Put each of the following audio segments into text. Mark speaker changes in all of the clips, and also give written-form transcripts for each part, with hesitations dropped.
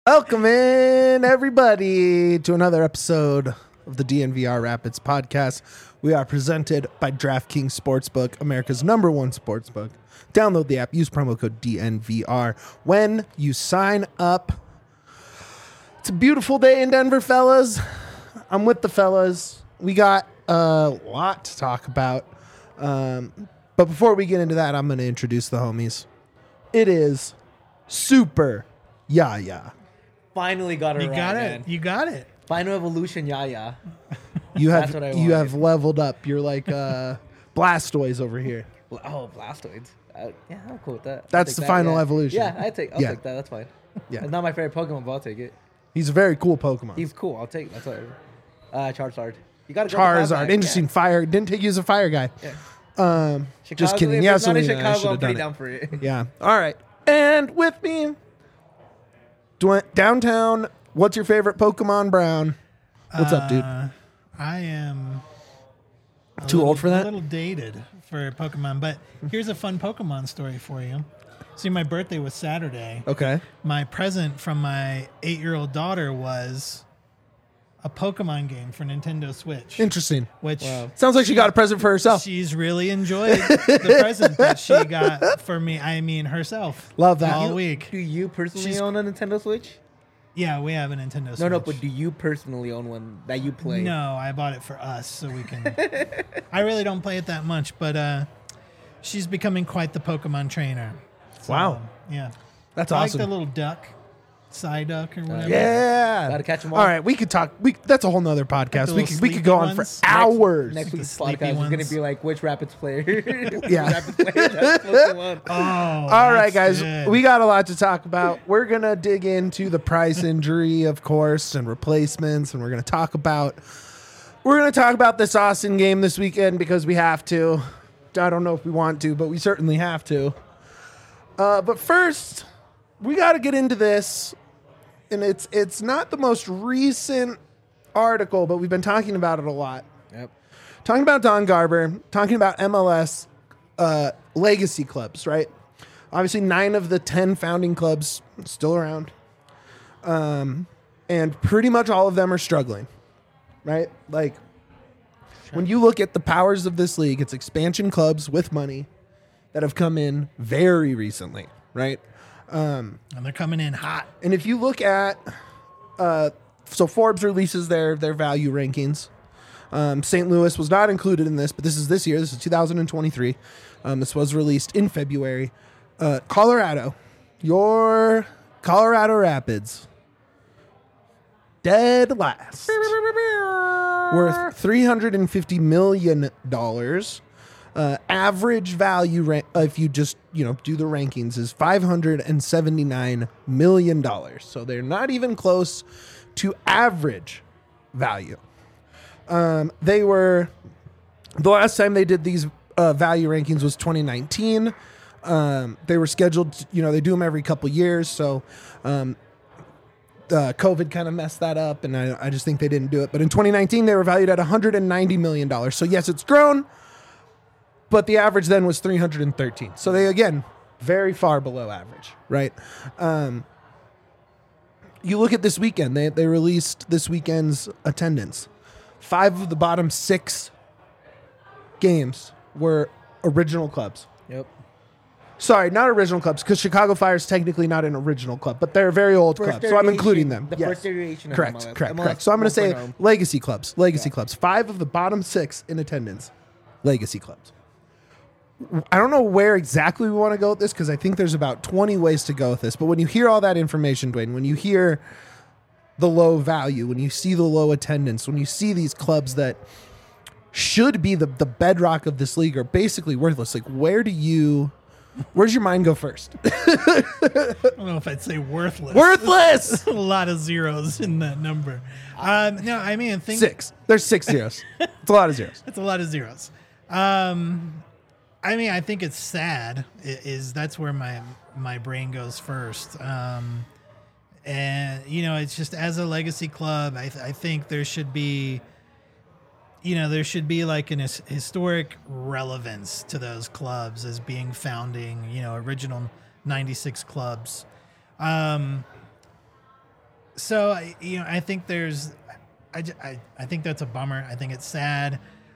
Speaker 1: Welcome in, everybody, to another episode of the DNVR Rapids podcast. We are presented by DraftKings Sportsbook, America's #1 sportsbook. Download the app, use promo code DNVR when you sign up. It's a beautiful day in Denver, fellas. I'm with the fellas. We got a lot to talk about. But before we get into that, I'm going to introduce the homies. It is Super Yaya.
Speaker 2: Finally got it
Speaker 3: You
Speaker 2: right,
Speaker 3: got
Speaker 2: man.
Speaker 3: it. You got it.
Speaker 2: Final evolution, Yaya.
Speaker 1: You
Speaker 2: That's what I
Speaker 1: you have
Speaker 2: wanted.
Speaker 1: leveled up. You're like Blastoise over here.
Speaker 2: Oh, Blastoids. Yeah, I'm cool with that. I'll
Speaker 1: That's
Speaker 2: take
Speaker 1: the
Speaker 2: that,
Speaker 1: final
Speaker 2: yeah.
Speaker 1: evolution.
Speaker 2: Yeah, I'll take that. That's fine.
Speaker 1: Yeah.
Speaker 2: It's not my favorite Pokemon, but I'll take it.
Speaker 1: He's a very cool Pokemon.
Speaker 2: He's cool. I'll take it. That's whatever. Charizard. You got to
Speaker 1: Charizard. Interesting. Fire. Didn't take you as a fire guy.
Speaker 2: Yeah.
Speaker 1: Just kidding.
Speaker 2: If
Speaker 1: Yeah,
Speaker 2: it's not in
Speaker 1: Selena, I
Speaker 2: Chicago,
Speaker 1: should
Speaker 2: I'm
Speaker 1: have
Speaker 2: pretty
Speaker 1: done
Speaker 2: down
Speaker 1: it.
Speaker 2: for it.
Speaker 1: Yeah. All right. And with me, downtown. What's your favorite Pokemon, Brown? What's up, dude?
Speaker 3: I am
Speaker 1: Too old for that?
Speaker 3: A little dated for Pokemon, but here's a fun Pokemon story for you. See, my birthday was Saturday.
Speaker 1: Okay.
Speaker 3: My present from my 8-year-old daughter was a Pokemon game for Nintendo Switch,
Speaker 1: Interesting.
Speaker 3: which
Speaker 1: Sounds like she got a present for herself.
Speaker 3: she's really enjoyed the present that she got for me. I mean, herself.
Speaker 1: Love that.
Speaker 3: all week.
Speaker 2: Do you personally
Speaker 3: She's-
Speaker 2: own a Nintendo Switch?
Speaker 3: Yeah, we have a Nintendo Switch.
Speaker 2: No, but do you personally own one that you play?
Speaker 3: No, I bought it for us so we can. I really don't play it that much, but she's becoming quite the Pokemon trainer. So,
Speaker 1: Wow.
Speaker 3: Yeah.
Speaker 1: That's
Speaker 3: I
Speaker 1: awesome.
Speaker 3: like the little duck, Psyduck or whatever.
Speaker 1: Yeah.
Speaker 2: Gotta catch 'em all.
Speaker 1: All right. We could talk. That's a whole nother podcast.
Speaker 3: the
Speaker 1: We
Speaker 3: little
Speaker 1: could go
Speaker 3: sleepy
Speaker 1: on for
Speaker 3: ones.
Speaker 1: hours.
Speaker 2: Next
Speaker 3: The
Speaker 2: week's
Speaker 3: sleepy
Speaker 2: podcast is going
Speaker 3: ones.
Speaker 2: to be like, which Rapids player?
Speaker 1: Yeah.
Speaker 2: Rapids player that's Pokemon.
Speaker 3: Oh.
Speaker 1: All right,
Speaker 3: that's
Speaker 1: guys,
Speaker 3: good.
Speaker 1: we got a lot to talk about. We're going to dig into the price injury, of course, and replacements, and we're going to talk about this Austin game this weekend because we have to. I don't know if we want to, but we certainly have to. But first, we got to get into this, and it's not the most recent article, but we've been talking about it a lot.
Speaker 2: Yep.
Speaker 1: Talking about Don Garber, talking about MLS legacy clubs, right? Obviously, 9 of the 10 founding clubs still around. And pretty much all of them are struggling, right? Like, when you look at the powers of this league, it's expansion clubs with money that have come in very recently, right?
Speaker 3: And they're coming in hot.
Speaker 1: And if you look at, so Forbes releases their value rankings. St. Louis was not included in this, but this is this year. This is 2023. This was released in February. Colorado, your Colorado Rapids, dead last, worth $350 million. Average value, if you just do the rankings, is $579 million. So they're not even close to average value. They were, the last time they did these value rankings was 2019. They were scheduled to, they do them every couple years. So COVID kind of messed that up, and I just think they didn't do it. But in 2019, they were valued at $190 million. So yes, it's grown, but the average then was 313. So they, again, very far below average, right? You look at this weekend, they released this weekend's attendance. 5 of the bottom 6 games were original clubs.
Speaker 2: Yep.
Speaker 1: Sorry, not original clubs, because Chicago Fire is technically not an original club, but they're a very old
Speaker 2: First
Speaker 1: club, so I'm including
Speaker 2: iteration-
Speaker 1: them.
Speaker 2: the first iteration of
Speaker 1: Correct,
Speaker 2: MLS.
Speaker 1: correct,
Speaker 2: MLS
Speaker 1: correct. So I'm going to say
Speaker 2: 1.0.
Speaker 1: legacy clubs. Legacy clubs. 5 of the bottom 6 in attendance, legacy clubs. I don't know where exactly we want to go with this, because I think there's about 20 ways to go with this, but when you hear all that information, Dwayne, when you hear the low value, when you see the low attendance, when you see these clubs that should be the bedrock of this league are basically worthless, like where's your mind go first?
Speaker 3: I don't know if I'd say worthless.
Speaker 1: Worthless!
Speaker 3: A lot of zeros in that number. No, I mean,
Speaker 1: 6. There's 6 zeros. It's a lot of zeros.
Speaker 3: That's a lot of zeros. I mean, I think it's sad. That's where my brain goes first. And it's just, as a legacy club, I think there should be, like an historic relevance to those clubs as being founding, original 96 clubs. So I think I think that's a bummer. I think it's sad.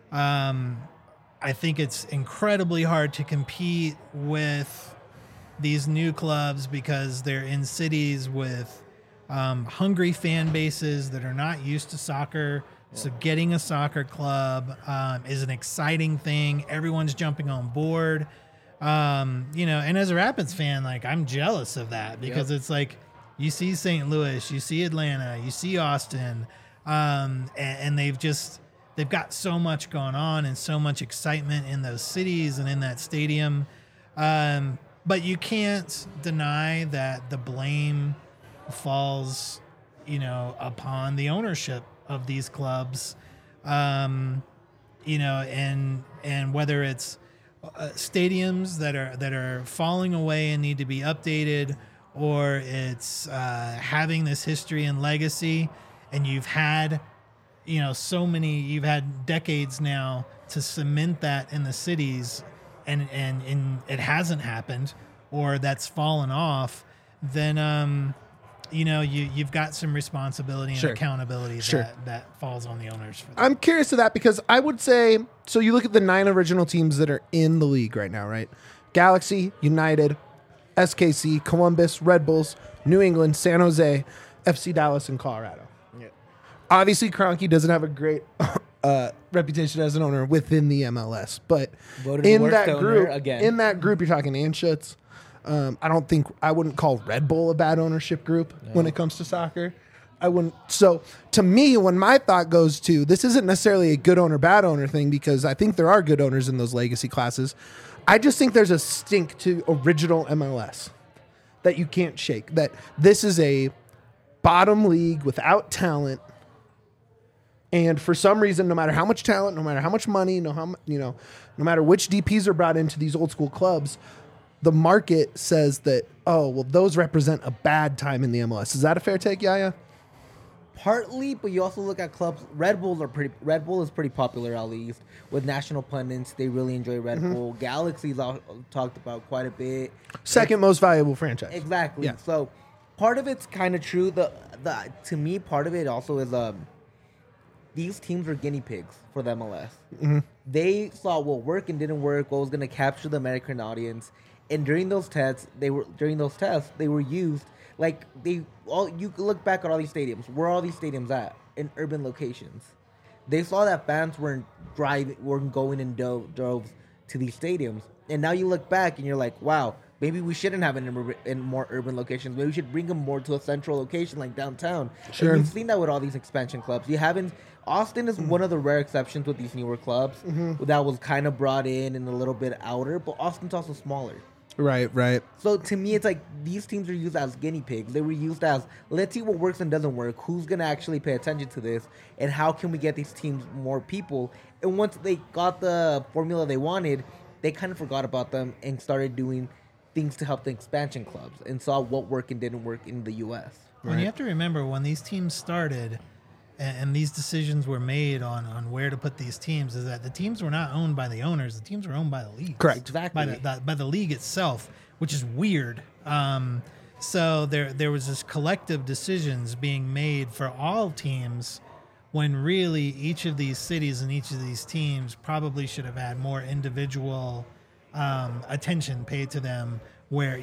Speaker 3: I think it's incredibly hard to compete with these new clubs because they're in cities with hungry fan bases that are not used to soccer. So getting a soccer club is an exciting thing. Everyone's jumping on board. And as a Rapids fan, like I'm jealous of that because it's like you see St. Louis, you see Atlanta, you see Austin, and they've got so much going on and so much excitement in those cities and in that stadium. But you can't deny that the blame falls, upon the ownership of these clubs, and whether it's stadiums that are falling away and need to be updated, or it's having this history and legacy, and you've had decades now to cement that in the cities, and it hasn't happened, or that's fallen off, then you've got some responsibility and accountability that falls on the owners for that.
Speaker 1: I'm curious to that because I would say, so you look at the 9 original teams that are in the league right now, right? Galaxy, United, SKC, Columbus, Red Bulls, New England, San Jose, FC Dallas, and Colorado.
Speaker 2: Yeah.
Speaker 1: Obviously, Kroenke doesn't have a great reputation as an owner within the MLS, but in that group, you're talking Anschutz. I wouldn't call Red Bull a bad ownership group when it comes to soccer. I wouldn't. So to me, when my thought goes to, this isn't necessarily a good owner, bad owner thing, because I think there are good owners in those legacy classes. I just think there's a stink to original MLS that you can't shake, that this is a bottom league without talent. And for some reason, no matter how much talent, no matter how much money, no matter which DPs are brought into these old school clubs, the market says that, those represent a bad time in the MLS. Is that a fair take, Yaya?
Speaker 2: Partly, but you also look at clubs. Red Bull is pretty popular, at least with national pundits. They really enjoy Red Bull. Galaxy's talked about quite a bit.
Speaker 1: Second most valuable franchise.
Speaker 2: Exactly.
Speaker 1: Yeah.
Speaker 2: So part of it's kind of true. To me, part of it also is these teams were guinea pigs for the MLS. Mm-hmm. They saw what worked and didn't work, what was going to capture the American audience. And during those tests, they were used like you look back at all these stadiums. Where are all these stadiums at? In urban locations. They saw that fans weren't going in droves to these stadiums. And now you look back and you're like, wow, maybe we shouldn't have it in more urban locations. Maybe we should bring them more to a central location like downtown.
Speaker 1: Sure.
Speaker 2: And you've seen that with all these expansion clubs. Austin is one of the rare exceptions with these newer clubs that was kind of brought in and a little bit outer, but Austin's also smaller.
Speaker 1: Right.
Speaker 2: So to me, it's like these teams are used as guinea pigs. They were used as, let's see what works and doesn't work. Who's going to actually pay attention to this? And how can we get these teams more people? And once they got the formula they wanted, they kind of forgot about them and started doing things to help the expansion clubs and saw what worked and didn't work in the U.S.
Speaker 3: Right. And you have to remember, when these teams started and these decisions were made on where to put these teams, is that the teams were not owned by the owners. The teams were owned by the league.
Speaker 1: Correct.
Speaker 2: Exactly.
Speaker 3: By the league itself, which is weird. So there was this collective decisions being made for all teams, when really each of these cities and each of these teams probably should have had more individual attention paid to them, where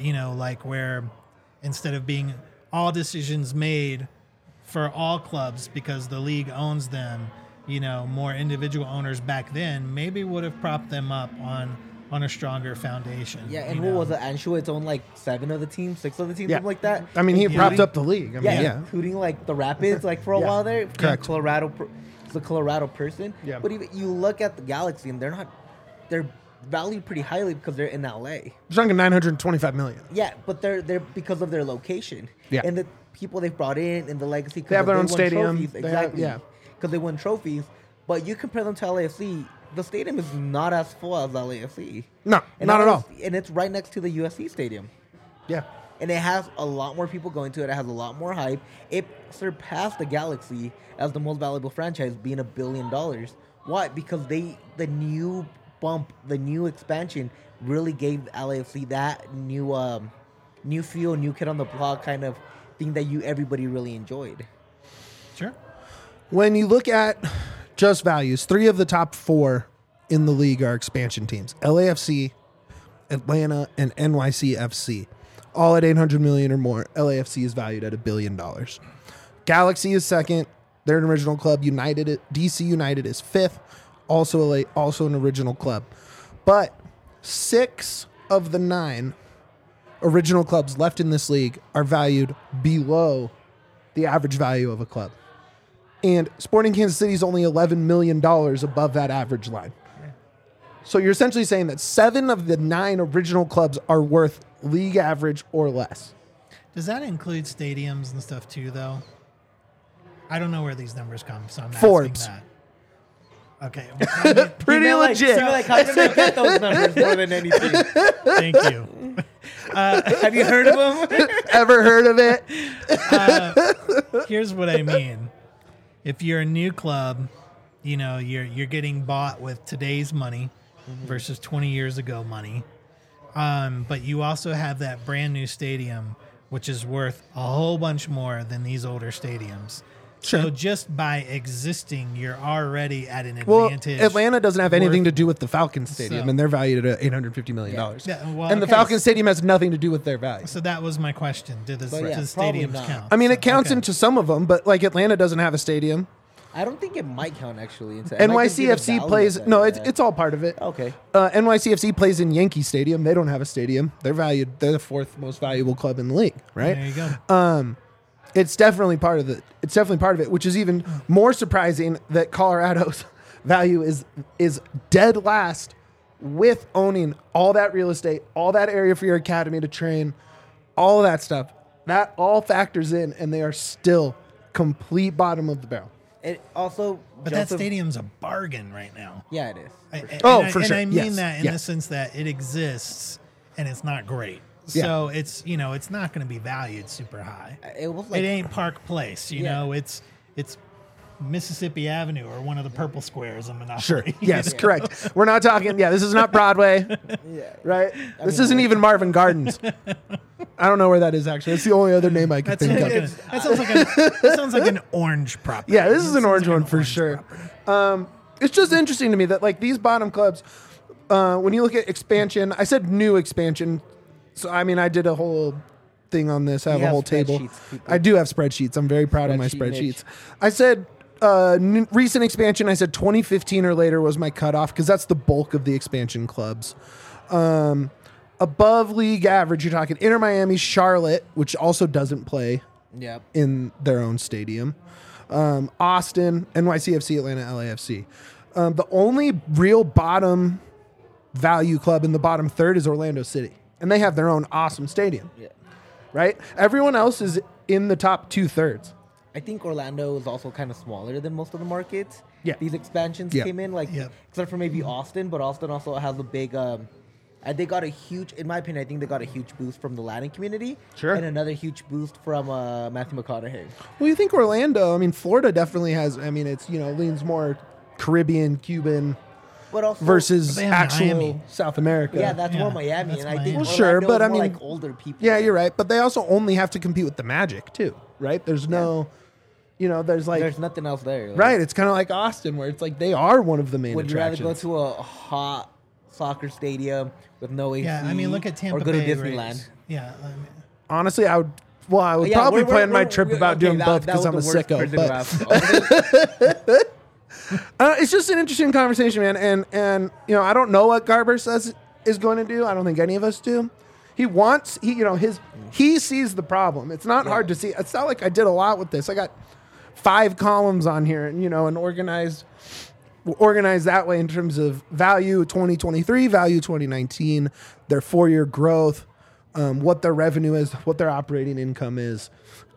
Speaker 3: instead of being all decisions made for all clubs because the league owns them, more individual owners back then maybe would have propped them up on a stronger foundation.
Speaker 2: Yeah, and what was it? Anschutz owned like 6 of the teams, something like that.
Speaker 1: I mean, he propped up the league.
Speaker 2: Including like the Rapids, for a while there.
Speaker 1: Correct.
Speaker 2: The Colorado person.
Speaker 1: Yeah.
Speaker 2: But even you look at the Galaxy, and they're valued pretty highly because they're in LA.
Speaker 1: They're talking $925 million.
Speaker 2: Yeah, but they're because of their location.
Speaker 1: Yeah.
Speaker 2: And the people they've brought in and the legacy.
Speaker 1: They have their own stadium.
Speaker 2: Exactly. Because they won trophies. But you compare them to LAFC, the stadium is not as full as LAFC.
Speaker 1: No, not at all.
Speaker 2: And it's right next to the USC stadium.
Speaker 1: Yeah.
Speaker 2: And it has a lot more people going to it. It has a lot more hype. It surpassed the Galaxy as the most valuable franchise, being $1 billion. Why? Because the new bump, the new expansion really gave LAFC that new feel, new kid on the block kind of thing that everybody really enjoyed.
Speaker 3: Sure.
Speaker 1: When you look at just values, 3 of the top 4 in the league are expansion teams: LAFC, Atlanta, and NYCFC. All at 800 million or more. LAFC is valued at $1 billion. Galaxy is second. They're an original club. DC United is fifth. Also an original club. But 6 of the 9 original clubs left in this league are valued below the average value of a club. And Sporting Kansas City is only $11 million above that average line. So you're essentially saying that 7 of the 9 original clubs are worth league average or less.
Speaker 3: Does that include stadiums and stuff too, though? I don't know where these numbers come, so I'm
Speaker 1: Forbes.
Speaker 3: asking that. Okay.
Speaker 1: Pretty legit.
Speaker 2: How did they get those numbers more than anything?
Speaker 3: Thank you.
Speaker 2: Have you heard of them?
Speaker 1: Ever heard of it?
Speaker 3: Here's what I mean. If you're a new club, you know, you're getting bought with today's money versus 20 years ago money. But you also have that brand new stadium, which is worth a whole bunch more than these older stadiums.
Speaker 1: Sure.
Speaker 3: So just by existing, you're already at an
Speaker 1: Well,
Speaker 3: advantage.
Speaker 1: Atlanta doesn't have anything
Speaker 3: worth-
Speaker 1: to do with the Falcons Stadium,
Speaker 3: So-
Speaker 1: and they're valued at $850 million.
Speaker 3: Yeah, well,
Speaker 1: And the
Speaker 3: okay,
Speaker 1: Falcons Stadium has nothing to do with their value.
Speaker 3: So that was my question. Do the
Speaker 2: yeah, probably
Speaker 3: stadiums
Speaker 2: not.
Speaker 3: count?
Speaker 1: I mean,
Speaker 3: So,
Speaker 1: it counts
Speaker 3: okay.
Speaker 1: into some of them, but like Atlanta doesn't have a stadium.
Speaker 2: I don't think it might count actually. It might just be the
Speaker 1: NYCFC
Speaker 2: value
Speaker 1: plays.
Speaker 2: of that,
Speaker 1: No,
Speaker 2: yeah.
Speaker 1: it's all part of it.
Speaker 2: Okay.
Speaker 1: NYCFC plays in Yankee Stadium. They don't have a stadium. They're valued. They're the 4th most valuable club in the league, right?
Speaker 3: There you go.
Speaker 1: It's definitely part of it. It's definitely part of it, which is even more surprising that Colorado's value is dead last with owning all that real estate, all that area for your academy to train, all of that stuff. That all factors in, and they are still complete bottom of the barrel.
Speaker 2: It also,
Speaker 3: But that stadium's a bargen right now.
Speaker 2: Yeah, it is.
Speaker 1: For
Speaker 3: And
Speaker 1: sure.
Speaker 3: I mean
Speaker 1: Yes.
Speaker 3: that in
Speaker 1: Yes.
Speaker 3: the sense that it exists and it's not great.
Speaker 1: Yeah.
Speaker 3: So it's it's not going to be valued super high.
Speaker 2: It was like
Speaker 3: It ain't Park Place, you
Speaker 2: Yeah.
Speaker 3: know. It's Mississippi Avenue or one of the purple squares in Monopoly.
Speaker 1: Sure.
Speaker 3: you
Speaker 1: Yes,
Speaker 3: know?
Speaker 1: correct. We're not talking. Yeah, this is not Broadway,
Speaker 2: yeah.
Speaker 1: right? This isn't even Marvin Gardens. I don't know where that is actually. That's the only other name I can
Speaker 3: That
Speaker 1: think
Speaker 3: sounds,
Speaker 1: of.
Speaker 3: that sounds like an orange property.
Speaker 1: Yeah, this is
Speaker 3: That
Speaker 1: an
Speaker 3: sounds
Speaker 1: orange
Speaker 3: like
Speaker 1: one for
Speaker 3: orange
Speaker 1: sure.
Speaker 3: property.
Speaker 1: It's just interesting to me that like these bottom clubs, when you look at expansion, I said new expansion. So I mean, I did a whole thing on this. I have
Speaker 2: You
Speaker 1: a
Speaker 2: have
Speaker 1: whole table.
Speaker 2: spreadsheets, people.
Speaker 1: I do have spreadsheets. I'm very proud of my
Speaker 2: Spreadsheet Mitch.
Speaker 1: spreadsheets. I said recent expansion. I said 2015 or later was my cutoff because that's the bulk of the expansion clubs. Above league average, you're talking Inter Miami, Charlotte, which also doesn't play
Speaker 2: Yeah.
Speaker 1: in their own stadium. Austin, NYCFC, Atlanta, LAFC. The only real bottom value club in the bottom third is Orlando City, and they have their own awesome stadium,
Speaker 2: Yeah.
Speaker 1: right? Everyone else is in the top 2/3.
Speaker 2: I think Orlando is also kind of smaller than most of the markets.
Speaker 1: Yeah.
Speaker 2: These expansions
Speaker 1: Yeah.
Speaker 2: came in, like,
Speaker 3: Yep.
Speaker 2: except for maybe Austin, but Austin also has a big, they got a huge, in my opinion, I think they got a huge boost from the Latin community.
Speaker 1: Sure.
Speaker 2: And another huge boost from Matthew McConaughey.
Speaker 1: Well, you think Orlando? I mean, Florida definitely has. I mean, it's leans more Caribbean, Cuban
Speaker 2: But also,
Speaker 1: versus
Speaker 3: They have
Speaker 1: actual
Speaker 3: Miami.
Speaker 1: South America.
Speaker 2: yeah, that's more
Speaker 3: Yeah,
Speaker 2: Miami.
Speaker 3: that's
Speaker 2: And I
Speaker 3: Miami.
Speaker 2: think
Speaker 3: Well,
Speaker 1: sure,
Speaker 2: Orlando
Speaker 1: but
Speaker 2: is
Speaker 1: I
Speaker 2: more
Speaker 1: mean-
Speaker 2: like older people.
Speaker 1: Yeah, you're right. But they also only have to compete with the Magic too, right? There's no, there's like
Speaker 2: There's nothing else there. Like,
Speaker 1: right. It's kind of like Austin, where it's like they are one of the main
Speaker 2: Would you rather
Speaker 1: attractions.
Speaker 2: go to a hot soccer stadium with no AC?
Speaker 3: Yeah, I mean, look at Tampa
Speaker 2: or go
Speaker 3: Bay
Speaker 2: to Disneyland.
Speaker 3: Rays. Yeah, I mean,
Speaker 1: Honestly, I would. Well, I would
Speaker 2: Yeah,
Speaker 1: probably
Speaker 2: we're-
Speaker 1: plan my
Speaker 2: we're-
Speaker 1: trip
Speaker 2: we're-
Speaker 1: about
Speaker 2: okay,
Speaker 1: doing
Speaker 2: that-
Speaker 1: both
Speaker 2: that
Speaker 1: because
Speaker 2: was
Speaker 1: I'm a
Speaker 2: the worst
Speaker 1: sicko.
Speaker 2: person to
Speaker 1: But
Speaker 2: ask.
Speaker 1: it's just an interesting conversation, man. And I don't know what Garber says is going to do. I don't think any of us do. He sees the problem. It's not hard to see. It's not like I did a lot with this. I got 5 columns on here, and and organized that way in terms of value 2023, value 2019, their 4-year growth, what their revenue is, what their operating income is.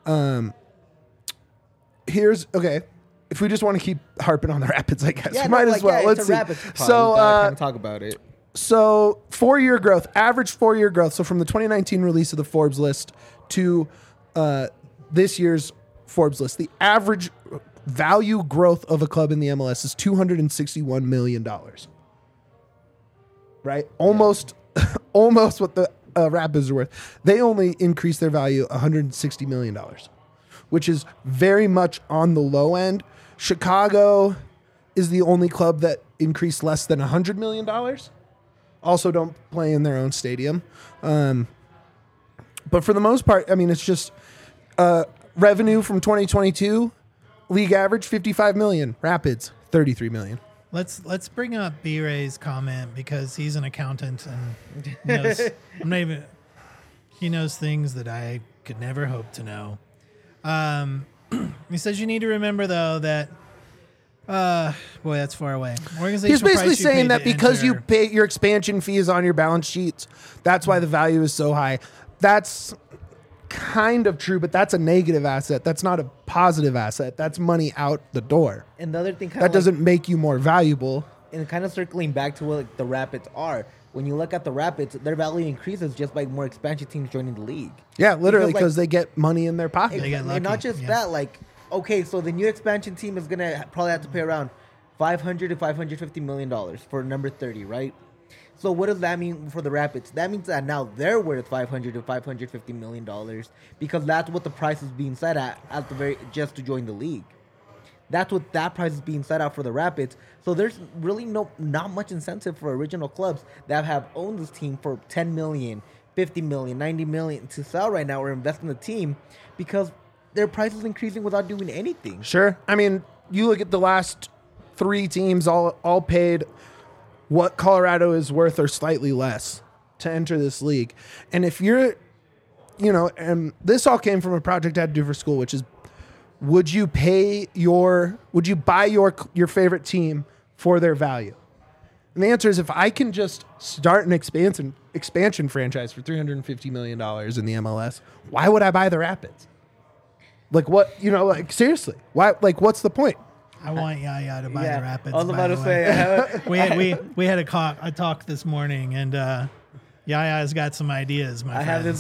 Speaker 1: If we just want to keep harping on the Rapids, I guess we might as well.
Speaker 2: Yeah,
Speaker 1: Let's
Speaker 2: it's
Speaker 1: see.
Speaker 2: a Rapids pod.
Speaker 1: So,
Speaker 2: We gotta kinda talk about it.
Speaker 1: so 4-year growth, average 4-year growth. So from the 2019 release of the Forbes list to this year's Forbes list, the average value growth of a club in the MLS is $261 million. Right? Almost what the Rapids are worth. They only increased their value $160 million, which is very much on the low end. Chicago is the only club that increased less than $100 million. Also don't play in their own stadium. But for the most part, I mean, it's just revenue from 2022, league average $55 million, Rapids $33 million.
Speaker 3: Let's bring up B-Ray's comment because he's an accountant and knows, he knows things that I could never hope to know. He says you need to remember though that boy, that's far away.
Speaker 1: He's basically saying that because you pay your expansion fees on your balance sheets, that's why the value is so high. That's kind of true, but that's a negative asset. That's not a positive asset. That's money out the door.
Speaker 2: And the other thing
Speaker 1: that doesn't make you more valuable.
Speaker 2: And kind of circling back to what the Rapids are. When you look at the Rapids, their value increases just by more expansion teams joining the league.
Speaker 1: Yeah, literally because they get money in their pocket.
Speaker 2: And not just that, like, okay, so the new expansion team is going to probably have to pay around $500 to $550 million for number 30, right? So what does that mean for the Rapids? That means that now they're worth $500 to $550 million because that's what the price is being set at the very just to join the league. That's what that price is being set out for the Rapids. So there's really not much incentive for original clubs that have owned this team for $10 million, $50 million, $90 million to sell right now or invest in the team because their price is increasing without doing anything.
Speaker 1: Sure. I mean, you look at the last 3 teams all paid what Colorado is worth or slightly less to enter this league. And if you're, and this all came from a project I had to do for school, which is, would you buy your favorite team for their value? And the answer is, if I can just start an expansion franchise for $350 million in the MLS, why would I buy the Rapids? Like what, seriously, why, like, what's the point?
Speaker 3: I want Yaya to buy the Rapids.
Speaker 2: I was about to say,
Speaker 3: we had a talk this morning, and Yaya's got some ideas. I
Speaker 2: have this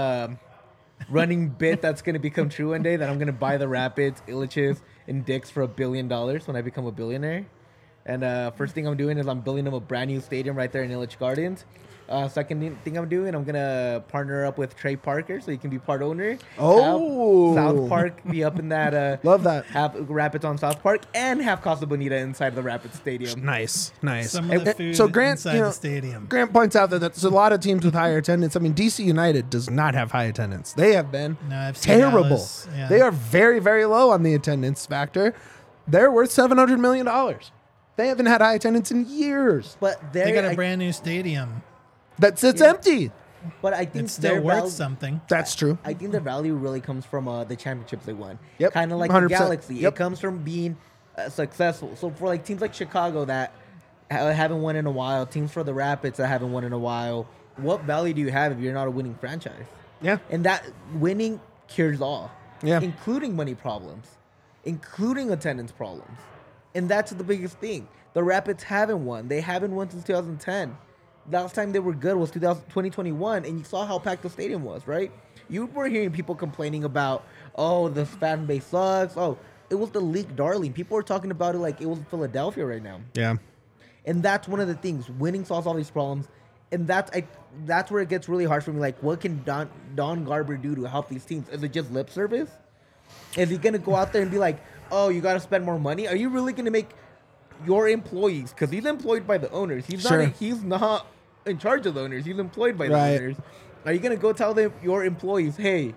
Speaker 2: running bit that's going to become true one day that I'm going to buy the Rapids, Illiches, and Dicks for $1 billion when I become a billionaire. And first thing I'm doing is I'm building them a brand new stadium right there in Illich Gardens. Second thing I'm doing, I'm going to partner up with Trey Parker so he can be part owner.
Speaker 1: Oh.
Speaker 2: Have South Park be up in that.
Speaker 1: Love that.
Speaker 2: Have Rapids on South Park and have Casa Bonita inside the Rapids Stadium.
Speaker 1: Nice.
Speaker 3: Some of the food inside the stadium.
Speaker 1: Grant points out that there's a lot of teams with higher attendance. I mean, DC United does not have high attendance. They have been terrible. Yeah. They are very, very low on the attendance factor. They're worth $700 million. They haven't had high attendance in years.
Speaker 2: But
Speaker 3: they got a brand new stadium.
Speaker 1: That sits empty.
Speaker 2: But I think
Speaker 3: it's still worth something.
Speaker 1: That's true.
Speaker 2: I think the value really comes from the championships they won.
Speaker 1: Yep.
Speaker 2: Kind of like
Speaker 1: 100%.
Speaker 2: the Galaxy.
Speaker 1: Yep.
Speaker 2: It comes from being successful. So for like teams like Chicago that haven't won in a while, teams for the Rapids that haven't won in a while, what value do you have if you're not a winning franchise?
Speaker 1: Yeah.
Speaker 2: And that winning cures all.
Speaker 1: Yeah.
Speaker 2: Including money problems, including attendance problems. And that's the biggest thing. The Rapids haven't won. They haven't won since 2010. Last time they were good was 2021, and you saw how packed the stadium was, right? You were hearing people complaining about, oh, the fan base sucks. Oh, it was the league darling. People were talking about it like it was Philadelphia right now.
Speaker 1: Yeah.
Speaker 2: And that's one of the things. Winning solves all these problems. And that's where it gets really hard for me. Like, what can Don Garber do to help these teams? Is it just lip service? Is he going to go out there and be like, oh, you got to spend more money? Are you really going to make your employees, because he's employed by the owners. He's not in charge of the owners. He's employed by the owners. Are you going to go tell them, your employers, hey,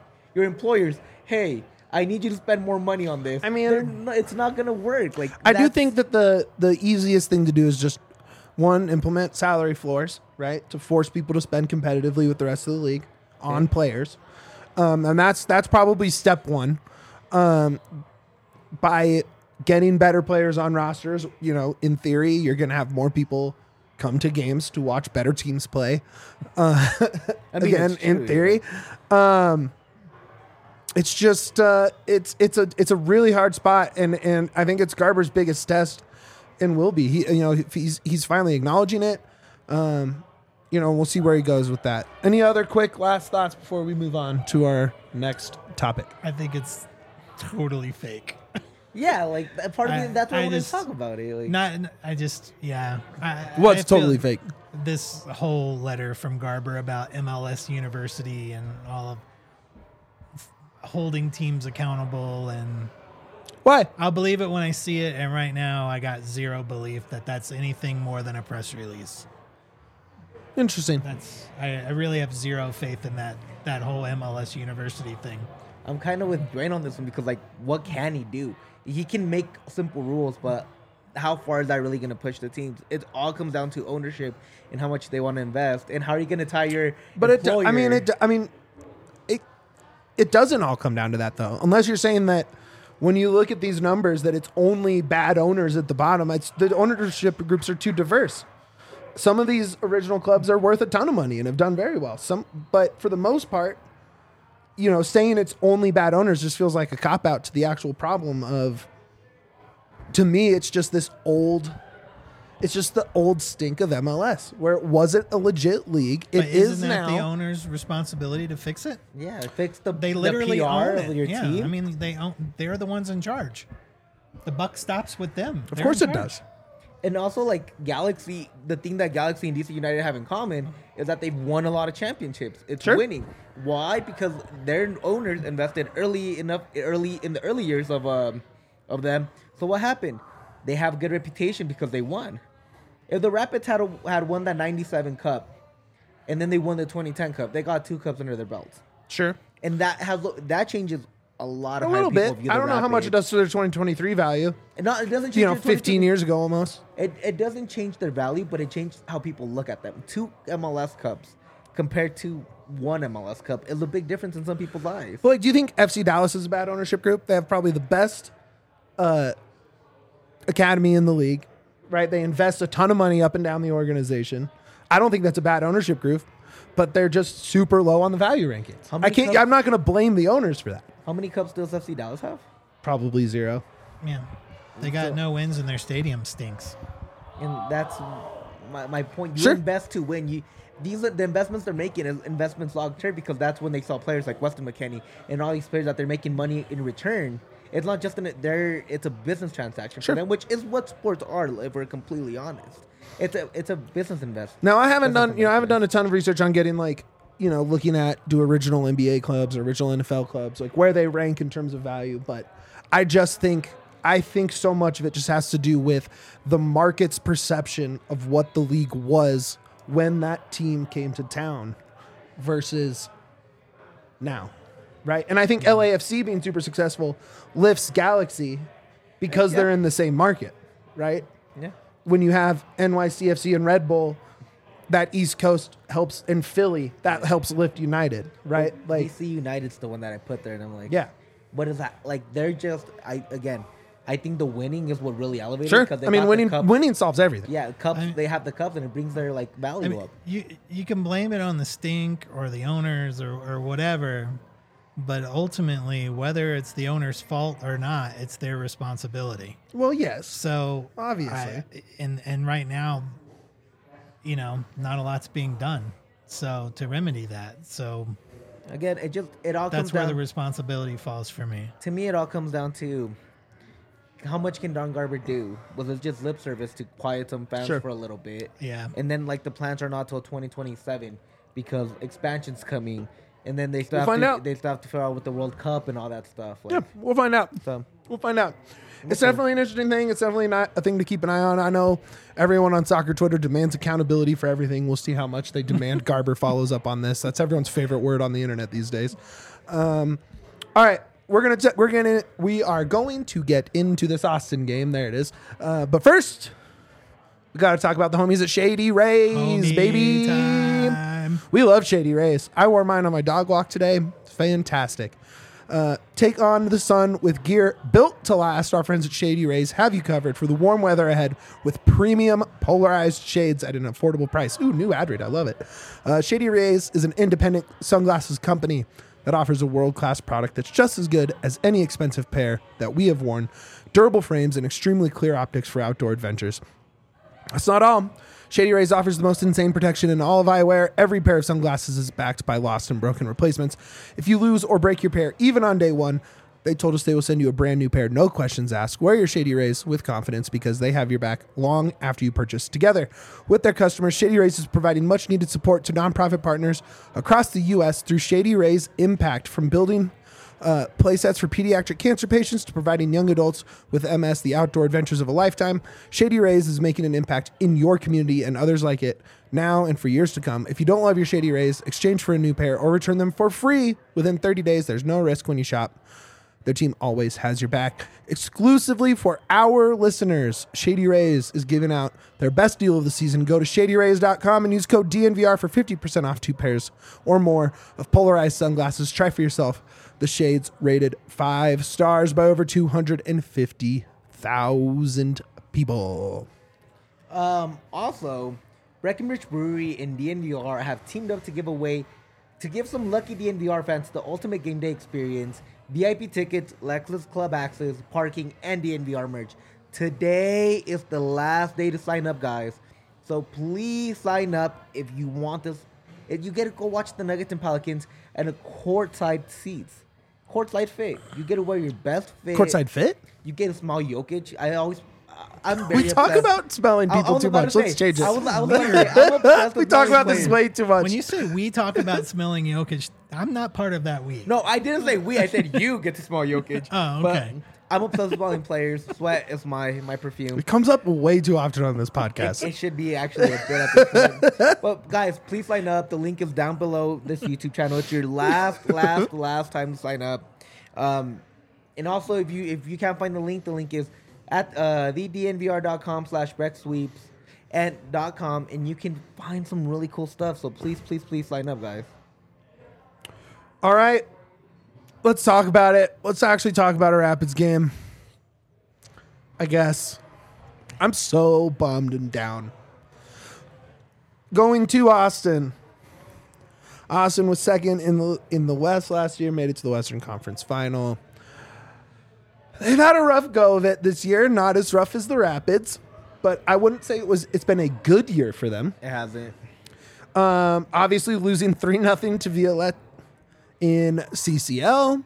Speaker 2: I need you to spend more money on this?
Speaker 1: I mean,
Speaker 2: it's not going to work. Like,
Speaker 1: I do think that the easiest thing to do is just, one, implement salary floors, right, to force people to spend competitively with the rest of the league on players. And that's probably step one. By getting better players on rosters, in theory, you're going to have more people come to games to watch better teams play. Again, in theory, it's just it's a really hard spot, and I think it's Garber's biggest test, and will be. He's finally acknowledging it. We'll see where he goes with that. Any other quick last thoughts before we move on to our next topic?
Speaker 3: I think it's totally fake.
Speaker 2: Yeah, like part of me, that's why I want to talk about it. Like,
Speaker 1: What's totally fake?
Speaker 3: this whole letter from Garber about MLS University and all of holding teams accountable, and
Speaker 1: Why?
Speaker 3: I'll believe it when I see it. And right now, I got zero belief that that's anything more than a press release.
Speaker 1: Interesting.
Speaker 3: I really have zero faith in that whole MLS University thing.
Speaker 2: I'm kind of with Dwayne on this one because, like, what can he do? He can make simple rules, but how far is that really going to push the teams? It all comes down to ownership and how much they want to invest, and how are you going to tie your employer?
Speaker 1: It doesn't all come down to that, though. Unless you're saying that when you look at these numbers that it's only bad owners at the bottom. The ownership groups are too diverse. Some of these original clubs are worth a ton of money and have done very well. But for the most part, saying it's only bad owners just feels like a cop-out to the actual problem of, to me, it's just the old stink of MLS, where it wasn't a legit league. It is
Speaker 3: isn't
Speaker 1: now.
Speaker 3: that the owner's responsibility to fix it?
Speaker 2: Yeah, fix
Speaker 3: They literally
Speaker 2: the PR
Speaker 3: own
Speaker 2: of
Speaker 3: it.
Speaker 2: your
Speaker 3: Yeah,
Speaker 2: team.
Speaker 3: I mean, they're the ones in charge. The buck stops with them.
Speaker 1: Of
Speaker 3: They're
Speaker 1: course
Speaker 3: in
Speaker 1: it
Speaker 3: charge.
Speaker 1: does.
Speaker 2: And also, like, Galaxy, the thing that Galaxy and DC United have in common is that they've won a lot of championships. It's
Speaker 1: Sure.
Speaker 2: winning. Why? Because their owners invested early in the early years of them. So what happened? They have a good reputation because they won. If the Rapids had won that 97 Cup, and then they won the 2010 Cup, they got 2 cups under their belts.
Speaker 1: Sure.
Speaker 2: And that changes a lot of
Speaker 1: A
Speaker 2: how
Speaker 1: little
Speaker 2: people
Speaker 1: bit.
Speaker 2: view the
Speaker 1: I don't know how much it
Speaker 2: Rapids.
Speaker 1: does to their 2023 value.
Speaker 2: And it doesn't change
Speaker 1: 15 years ago almost.
Speaker 2: It doesn't change their value, but it changed how people look at them. 2 MLS Cups compared to 1 MLS Cup is a big difference in some people's lives.
Speaker 1: But do you think FC Dallas is a bad ownership group? They have probably the best academy in the league, right? They invest a ton of money up and down the organization. I don't think that's a bad ownership group, but they're just super low on the value rankings.
Speaker 2: How many
Speaker 1: I'm not going to blame the owners for that.
Speaker 2: How many cups does FC Dallas have?
Speaker 1: Probably 0.
Speaker 3: Yeah, they got no wins and their stadium stinks.
Speaker 2: And that's my point. You
Speaker 1: Sure.
Speaker 2: invest to win. These are the investments they're making is investments long term, because that's when they saw players like Weston McKennie and all these players that they're making money in return. It's not just it's a business transaction
Speaker 1: Sure.
Speaker 2: for them, which is what sports are, if we're completely honest. It's a business investment.
Speaker 1: Now I haven't
Speaker 2: Business
Speaker 1: done
Speaker 2: investment.
Speaker 1: a ton of research on getting looking at original NBA clubs or original NFL clubs, like where they rank in terms of value. But I think so much of it just has to do with the market's perception of what the league was when that team came to town versus now, right? And I think LAFC being super successful lifts Galaxy because
Speaker 2: Yeah.
Speaker 1: they're in the same market, right?
Speaker 2: Yeah.
Speaker 1: When you have NYCFC and Red Bull, that East Coast helps, and Philly, that helps lift United, right? Like,
Speaker 2: DC United's the one that I put there, and I'm like,
Speaker 1: yeah,
Speaker 2: what is that? Like, they're just, I think the winning is what really elevated.
Speaker 1: sure.
Speaker 2: Because they
Speaker 1: I mean,
Speaker 2: got the cup.
Speaker 1: winning solves everything.
Speaker 2: Yeah, cups. They have the cups, and it brings their value
Speaker 3: I mean,
Speaker 2: up.
Speaker 3: you can blame it on the stink or the owners or whatever, but ultimately, whether it's the owner's fault or not, it's their responsibility.
Speaker 1: Well, yes.
Speaker 3: So
Speaker 1: Obviously.
Speaker 3: and right now, not a lot's being done. So to remedy that, so
Speaker 2: Again, it all comes
Speaker 3: that's where
Speaker 2: down
Speaker 3: the responsibility falls for me.
Speaker 2: to me. It all comes down to how much can Don Garber do? Was it just lip service to quiet some fans
Speaker 1: Sure.
Speaker 2: for a little bit?
Speaker 3: Yeah.
Speaker 2: And then the plans are not till 2027 because expansion's coming, and then they still
Speaker 1: We'll find out.
Speaker 2: They still have to figure out with the World Cup and all that stuff.
Speaker 1: Yeah, we'll find out.
Speaker 2: So
Speaker 1: We'll find out. It's definitely an interesting thing. It's definitely not a thing to keep an eye on. I know everyone on soccer Twitter demands accountability for everything. We'll see how much they demand Garber follows up on this. That's everyone's favorite word on the internet these days. All right, we are going to get into this Austin game. There it is. But first, we got to talk about the homies at Shady Rays,
Speaker 3: Homie
Speaker 1: baby.
Speaker 3: time.
Speaker 1: We love Shady Rays. I wore mine on my dog walk today. Fantastic. Take on the sun with gear built to last. Our friends at Shady Rays have you covered for the warm weather ahead with premium polarized shades at an affordable price. Ooh, new ad read. I love it. Shady Rays is an independent sunglasses company that offers a world-class product that's just as good as any expensive pair that we have worn. Durable frames and extremely clear optics for outdoor adventures. That's not all. Shady Rays offers the most insane protection in all of eyewear. Every pair of sunglasses is backed by lost and broken replacements. If you lose or break your pair, even on day one, They told us they will send you a brand new pair, no questions asked. Wear your Shady Rays with confidence because they have your back long after you purchase. Together with their customers, Shady Rays is providing much needed support to nonprofit partners across the U.S. through Shady Rays Impact, from building playsets for pediatric cancer patients to providing young adults with MS the outdoor adventures of a lifetime. Shady Rays is making an impact in your community and others like it now and for years to come. If you don't love your Shady Rays, exchange for a new pair or return them for free within 30 days. There's no risk when you shop. Their team always has your back. Exclusively for our listeners, Shady Rays is giving out their best deal of the season. Go to shadyrays.com and use code DNVR for 50% off 2 pairs or more of polarized sunglasses. Try for yourself the shades rated 5 stars by over 250,000 people.
Speaker 2: Also, Breckenridge Brewery and DNVR have teamed up to give some lucky DNVR fans the ultimate game day experience, VIP tickets, Lexus Club access, parking, and DNVR merch. Today is the last day to sign up, guys. So please sign up if you want this. If you get to go watch the Nuggets and Pelicans and a courtside seats. Courtside fit. You get to wear your best fit.
Speaker 1: Courtside fit?
Speaker 2: You get to smell Jokic. I'm very
Speaker 1: We talk
Speaker 2: obsessed.
Speaker 1: about smelling people too much. Let's change it.
Speaker 2: I was about to say, I'm obsessed
Speaker 1: We
Speaker 2: with
Speaker 1: talk
Speaker 2: smelling
Speaker 1: about this
Speaker 2: players.
Speaker 1: way too much.
Speaker 3: When you say we talk about smelling Jokic, I'm not part of that we.
Speaker 2: No, I didn't say we. I said you get to smell Jokic.
Speaker 3: Oh, okay.
Speaker 2: But I'm obsessed with smelling players. Sweat is my perfume.
Speaker 1: It comes up way too often on this podcast.
Speaker 2: It should be actually a bit at this point. But guys, please sign up. The link is down below this YouTube channel. It's your last time to sign up. And also, if you can't find the link is at thednvr.com/brecksweeps and .com, and you can find some really cool stuff. So please sign up, guys.
Speaker 1: All right. Let's talk about it. Let's actually talk about a Rapids game. I guess. I'm so bummed and down. Going to Austin. Austin was second in the West last year, made it to the Western Conference Final. They've had a rough go of it this year, not as rough as the Rapids, but I wouldn't say it's been a good year for them.
Speaker 2: It hasn't.
Speaker 1: Obviously losing 3-0 to Violette in CCL.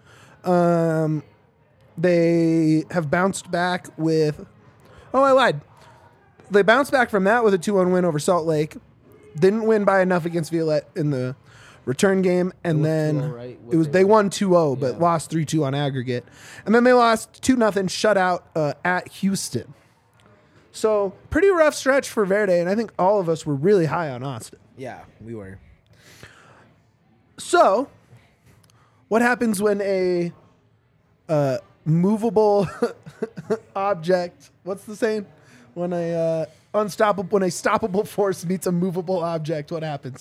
Speaker 1: They have bounced back with... Oh, I lied. They bounced back from that with a 2-1 win over Salt Lake. Didn't win by enough against Violette in the return game, and then
Speaker 2: 2-0, right?
Speaker 1: they won 2-0, but
Speaker 2: Yeah.
Speaker 1: lost 3-2 on aggregate. And then they lost 2-0 shutout at Houston. So pretty rough stretch for Verde, and I think all of us were really high on Austin.
Speaker 2: Yeah, we were.
Speaker 1: So, what happens when a movable object? What's the saying? When a stoppable force meets a movable object, what happens?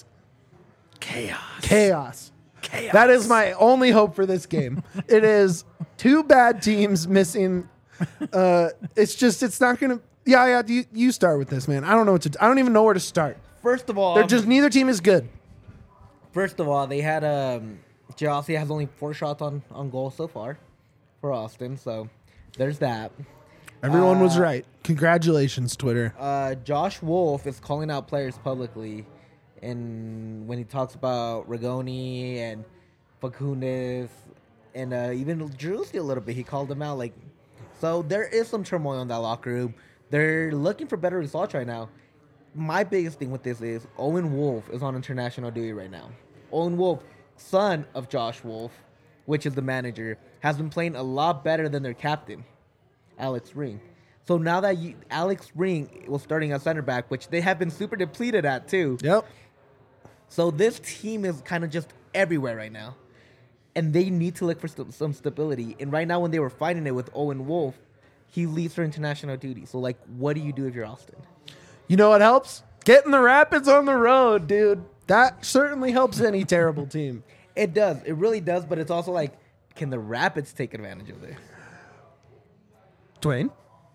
Speaker 1: Chaos. That is my only hope for this game. It is 2 bad teams missing. It's not gonna. Yeah. You start with this, man. I don't know I don't even know where to start.
Speaker 2: First of all,
Speaker 1: Neither team is good.
Speaker 2: First of all, they had Jalasi has only 4 shots on goal so far for Austin, so there's that.
Speaker 1: Everyone was right. Congratulations, Twitter.
Speaker 2: Josh Wolf is calling out players publicly, and when he talks about Rigoni and Facundes and even Drewsy a little bit, he called them out. So there is some turmoil in that locker room. They're looking for better results right now. My biggest thing with this is Owen Wolf is on international duty right now. Owen Wolf, son of Josh Wolf, which is the manager, has been playing a lot better than their captain, Alex Ring. So now that Alex Ring was starting at center back, which they have been super depleted at too.
Speaker 1: Yep.
Speaker 2: So this team is kind of just everywhere right now. And they need to look for some stability. And right now when they were fighting it with Owen Wolf, he leaves for international duty. So what do you do if you're Austin?
Speaker 1: You know what helps? Getting the Rapids on the road, dude. That certainly helps any terrible team.
Speaker 2: It does. It really does. But it's also can the Rapids take advantage of this?
Speaker 1: Dwayne?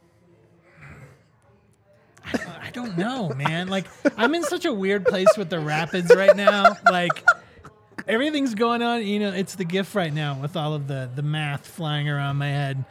Speaker 3: I don't know, man. I'm in such a weird place with the Rapids right now. Everything's going on. It's the gift right now with all of the math flying around my head.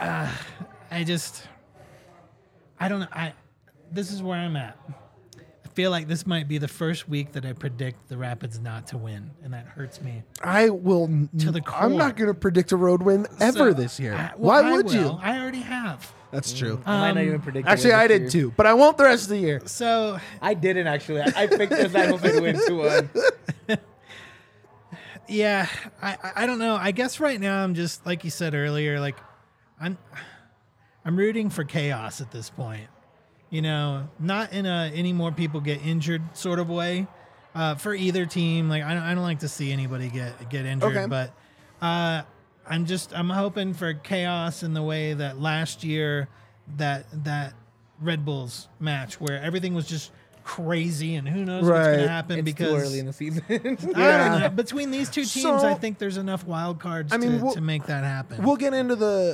Speaker 3: I don't know. This is where I'm at. feel like this might be the first week that I predict the Rapids not to win, and that hurts me.
Speaker 1: I will.
Speaker 3: To the
Speaker 1: I'm not
Speaker 3: core.
Speaker 1: going to predict a road win ever
Speaker 3: So,
Speaker 1: this year.
Speaker 3: well,
Speaker 1: Why would
Speaker 3: will.
Speaker 1: you?
Speaker 3: I already have.
Speaker 1: That's true.
Speaker 2: I might not even predict.
Speaker 1: Actually, I did too, but I won't the rest of the year.
Speaker 3: So
Speaker 2: I didn't actually. I picked the San Jose to win 2-1.
Speaker 3: yeah, I don't know. I guess right now I'm just like you said earlier, like I'm rooting for chaos at this point. You know, not in a any more people get injured sort of way for either team. Like I don't like to see anybody get injured,
Speaker 1: Okay.
Speaker 3: but I'm hoping for chaos in the way that last year that Red Bulls match where everything was just crazy and who knows what's going
Speaker 1: Right.
Speaker 3: to happen
Speaker 2: It's
Speaker 3: because
Speaker 2: too early in the season.
Speaker 3: I don't
Speaker 1: Yeah.
Speaker 3: know. Between these two teams,
Speaker 1: So-
Speaker 3: I think there's enough wild cards
Speaker 1: I mean,
Speaker 3: to make that happen.
Speaker 1: We'll get into the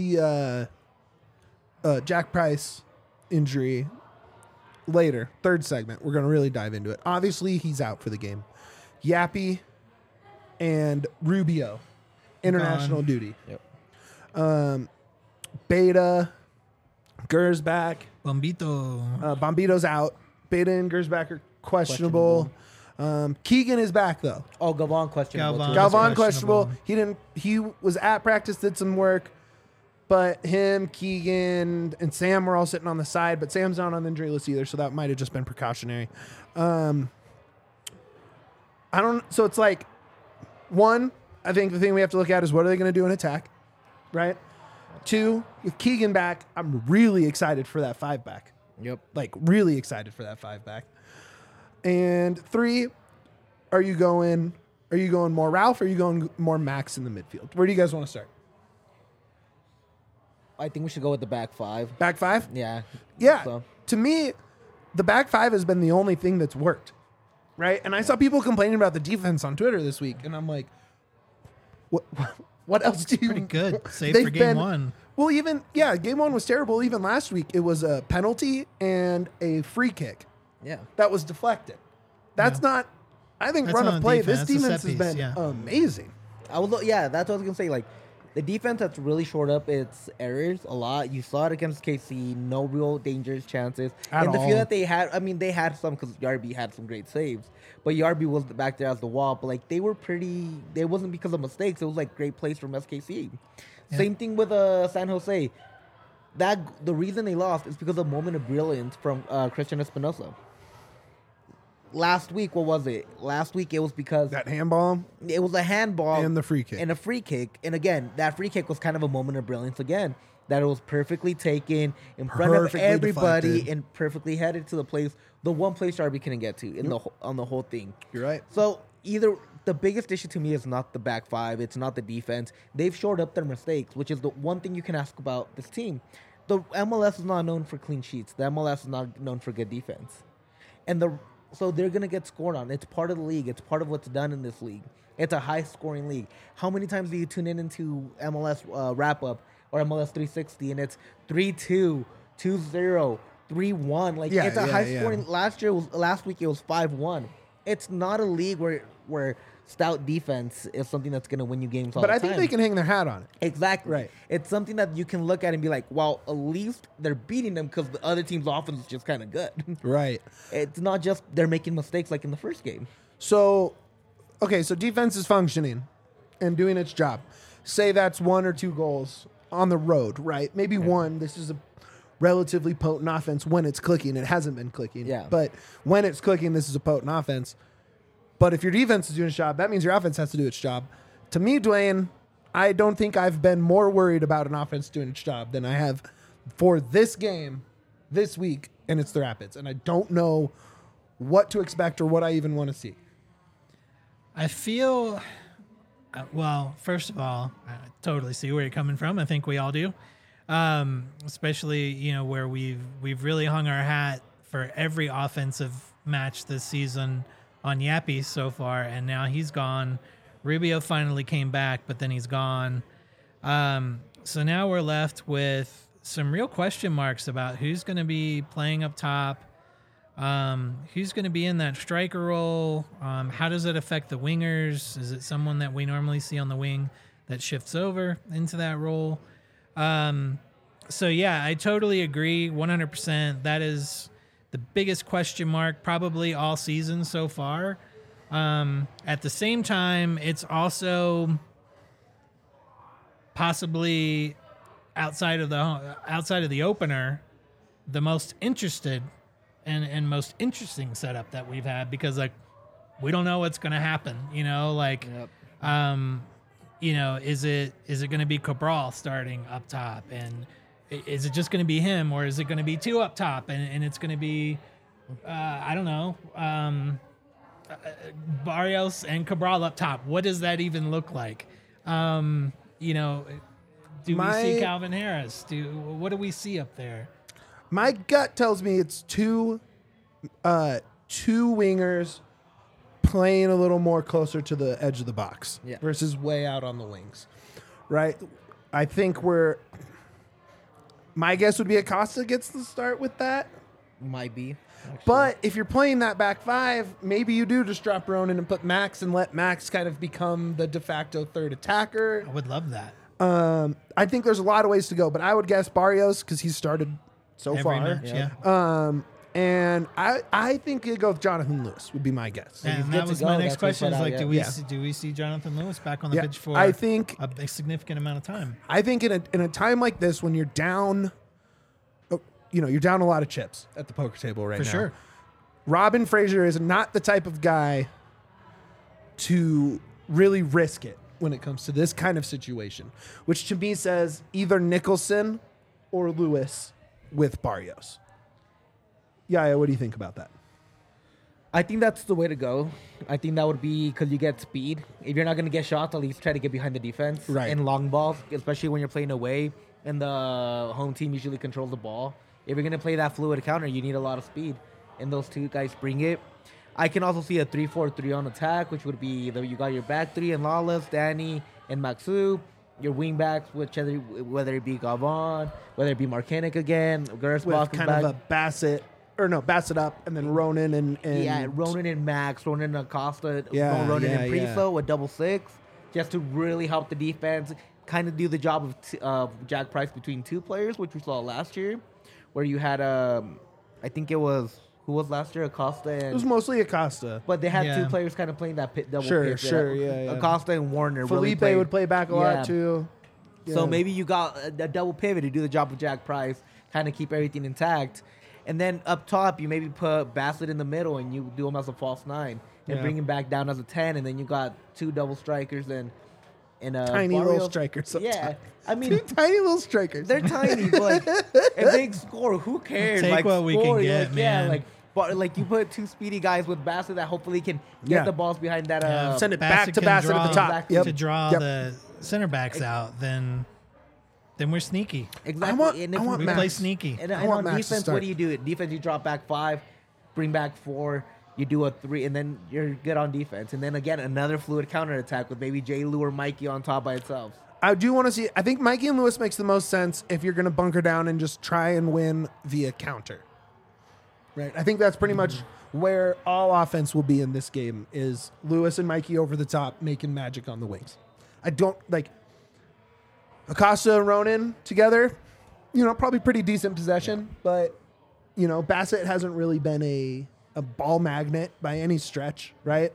Speaker 1: Jack Price injury later. Third segment, we're going to really dive into it. Obviously, he's out for the game. Yappy and Rubio, international
Speaker 3: Gone.
Speaker 1: duty.
Speaker 2: Yep.
Speaker 1: Beta, Gersbach,
Speaker 3: Bombito.
Speaker 1: Bombito's out. Beta and Gersbach are questionable. Keegan is back though.
Speaker 2: Oh, Galvan questionable.
Speaker 3: Galvan.
Speaker 2: too.
Speaker 1: Galvan
Speaker 3: questionable.
Speaker 1: questionable. He was at practice, did some work, but him, Keegan, and Sam were all sitting on the side. But Sam's not on the injury list either, so that might have just been precautionary. I don't. So it's like one. I think the thing we have to look at is what are they going to do in attack, right? Two, with Keegan back, I'm really excited for that 5-back.
Speaker 2: Yep.
Speaker 1: Like really excited for that 5-back. And three, are you going more Ralph or are you going more Max in the midfield? Where do you guys want to start?
Speaker 2: I think we should go with the back five.
Speaker 1: Back five?
Speaker 2: Yeah.
Speaker 1: Yeah.
Speaker 2: So,
Speaker 1: To me, the back five has been the only thing that's worked. Right? And I saw people complaining about the defense on Twitter this week, and I'm like, what else do you
Speaker 3: Pretty good. Save
Speaker 1: They've
Speaker 3: for game
Speaker 1: been-
Speaker 3: one.
Speaker 1: Well, game one was terrible. Even last week, it was a penalty and a free kick
Speaker 2: yeah.
Speaker 1: that was deflected. That's not, I think,
Speaker 3: That's
Speaker 1: run
Speaker 3: not
Speaker 1: of play.
Speaker 3: defense.
Speaker 1: This
Speaker 3: That's a
Speaker 1: defense
Speaker 3: set
Speaker 1: has been
Speaker 3: piece, yeah.
Speaker 1: amazing.
Speaker 2: Yeah, that's what I was gonna say. Like, the defense that's really shored up its errors a lot. You saw it against KC. No real dangerous chances.
Speaker 1: At
Speaker 2: and the
Speaker 1: all.
Speaker 2: few that they had, I mean, they had some because Yarby had some great saves. But Yarby was back there as the wall. But like, they were pretty. It wasn't because of mistakes. It was like great plays from SKC.
Speaker 3: Yeah.
Speaker 2: Same thing with San Jose. The reason they lost is because of a moment of brilliance from Christian Espinosa. Last week, what was it? Last week, it was because
Speaker 1: That handball
Speaker 2: it was a handball
Speaker 1: and the free kick.
Speaker 2: and a free kick. And again, that free kick was kind of a moment of brilliance again. That it was perfectly taken in front of
Speaker 1: Perfectly
Speaker 2: everybody
Speaker 1: deflected.
Speaker 2: and perfectly headed to the place, the one place Darby couldn't get to on the whole thing.
Speaker 1: You're right.
Speaker 2: So either the biggest issue to me is not the back five, it's not the defense. They've shored up their mistakes, which is the one thing you can ask about this team. The MLS is not known for clean sheets. The MLS is not known for good defense. So they're going to get scored on. It's part of the league. It's part of what's done in this league. It's a high-scoring league. How many times do you tune into MLS wrap-up or MLS 360 and it's 3-2, 2-0, 3-1? Like,
Speaker 1: Yeah,
Speaker 2: it's a
Speaker 1: yeah,
Speaker 2: high-scoring. Last week it was 5-1. It's not a league where stout defense is something that's going to win you games all
Speaker 1: But
Speaker 2: the
Speaker 1: I
Speaker 2: time.
Speaker 1: think they can hang their hat on it.
Speaker 2: Exactly.
Speaker 1: Right.
Speaker 2: It's something that you can look at and be like, well, at least they're beating them because the other team's offense is just kind of good.
Speaker 1: Right.
Speaker 2: It's not just they're making mistakes like in the first game.
Speaker 1: So, okay, so defense is functioning and doing its job. Say that's 1 or 2 goals on the road, right? Maybe one. This is a relatively potent offense when it's clicking. It hasn't been clicking.
Speaker 2: Yeah.
Speaker 1: But when it's clicking, this is a potent offense. But if your defense is doing its job, that means your offense has to do its job. To me, Dwayne, I don't think I've been more worried about an offense doing its job than I have for this game, this week, and it's the Rapids. And I don't know what to expect or what I even want to see.
Speaker 3: I feel, well, first of all, I totally see where you're coming from. I think we all do, especially where we've really hung our hat for every offensive match this season on Yappy so far, and now he's gone. Rubio finally came back, but then he's gone. So now we're left with some real question marks about who's going to be playing up top. Who's going to be in that striker role? How does it affect the wingers? Is it someone that we normally see on the wing that shifts over into that role? So yeah, I totally agree 100%. the biggest question mark probably all season so far. At the same time, it's also possibly outside of the opener, the most interested and most interesting setup that we've had, because like we don't know what's going to happen. You know, like you know, is it going to be Cabral starting up top, and is it just going to be him, or is it going to be two up top, and it's going to be I don't know, Barrios and Cabral up top? What does that even look like? You know, do we see Calvin Harris? What do we see up there?
Speaker 1: My gut tells me it's two wingers playing a little more closer to the edge of the box versus way out on the wings, right? I think my guess would be Acosta gets the start with that.
Speaker 2: Might be. Actually.
Speaker 1: But if you're playing that back five, maybe you do just drop Ronan and put Max and let Max kind of become the de facto third attacker.
Speaker 3: I would love that.
Speaker 1: I think there's a lot of ways to go, but I would guess Barrios because he's started so
Speaker 3: Every
Speaker 1: far.
Speaker 3: match, yeah.
Speaker 1: And I think you'd go with Jonathan Lewis would be my guess.
Speaker 3: And
Speaker 2: good
Speaker 3: that
Speaker 2: to
Speaker 3: was
Speaker 2: go.
Speaker 3: my next
Speaker 2: That's what
Speaker 3: question.
Speaker 2: he
Speaker 3: Is
Speaker 2: put
Speaker 3: like,
Speaker 2: out,
Speaker 3: do we see Jonathan Lewis back on the pitch for?
Speaker 1: I think
Speaker 3: a significant amount of time.
Speaker 1: I think in a time like this when you're down, you're down a lot of chips at the poker table right now.
Speaker 3: For sure.
Speaker 1: Robin Fraser is not the type of guy to really risk it when it comes to this kind of situation, which to me says either Nicholson or Lewis with Barrios. Yeah, what do you think about that?
Speaker 2: I think that's the way to go. I think that would be because you get speed. If you're not going to get shots, at least try to get behind the defense.
Speaker 1: Right.
Speaker 2: And long balls, especially when you're playing away and the home team usually controls the ball. If you're going to play that fluid counter, you need a lot of speed. And those two guys bring it. I can also see a 3-4-3 on attack, which would be you got your back three and Lawless, Danny, and Maxu. Your wing backs, whether it be Gavon, whether it be Marcanic again, Gersbach
Speaker 1: With kind of a Bassett up, and then Ronan and
Speaker 2: Ronan and Max, Ronan and Acosta,
Speaker 1: and
Speaker 2: Ronan and Priso, a double six, just to really help the defense, kind of do the job of Jack Price between two players, which we saw last year, where you had I think it was. Who was last year? Acosta and...
Speaker 1: It was mostly Acosta.
Speaker 2: But they had two players kind of playing that double pit.
Speaker 1: Sure, yeah.
Speaker 2: Acosta and Warner
Speaker 1: Felipe
Speaker 2: really
Speaker 1: would play back a lot, too. Yeah.
Speaker 2: So maybe you got a double pivot to do the job of Jack Price, kind of keep everything intact. And then up top, you maybe put Bassett in the middle and you do him as a false 9 and bring him back down as a 10. And then you got two double strikers and
Speaker 1: tiny
Speaker 2: Barrios.
Speaker 1: little strikers.
Speaker 2: Yeah. I mean,
Speaker 1: two tiny little strikers.
Speaker 2: They're tiny, but if they score, who cares?
Speaker 3: Take what we can get, man.
Speaker 2: But you put two speedy guys with Bassett that hopefully can get the balls behind that.
Speaker 1: Send it back to Bassett at the top.
Speaker 2: Exactly.
Speaker 3: To draw the center backs out, then we're sneaky.
Speaker 2: Exactly.
Speaker 1: I want
Speaker 3: we
Speaker 1: Max.
Speaker 3: play sneaky.
Speaker 2: And
Speaker 1: I want
Speaker 2: on
Speaker 1: Max to
Speaker 2: defense,
Speaker 1: start.
Speaker 2: what do you do? Defense, you drop back 5, bring back 4, you do a 3, and then you're good on defense. And then again, another fluid counterattack with maybe J. Lou or Mikey on top by itself.
Speaker 1: I do want to see. I think Mikey and Lewis makes the most sense if you're going to bunker down and just try and win via counter. Right. I think that's pretty much where all offense will be in this game is Lewis and Mikey over the top making magic on the wings. I don't like Acosta and Ronan together, probably pretty decent possession, but Bassett hasn't really been a ball magnet by any stretch, right?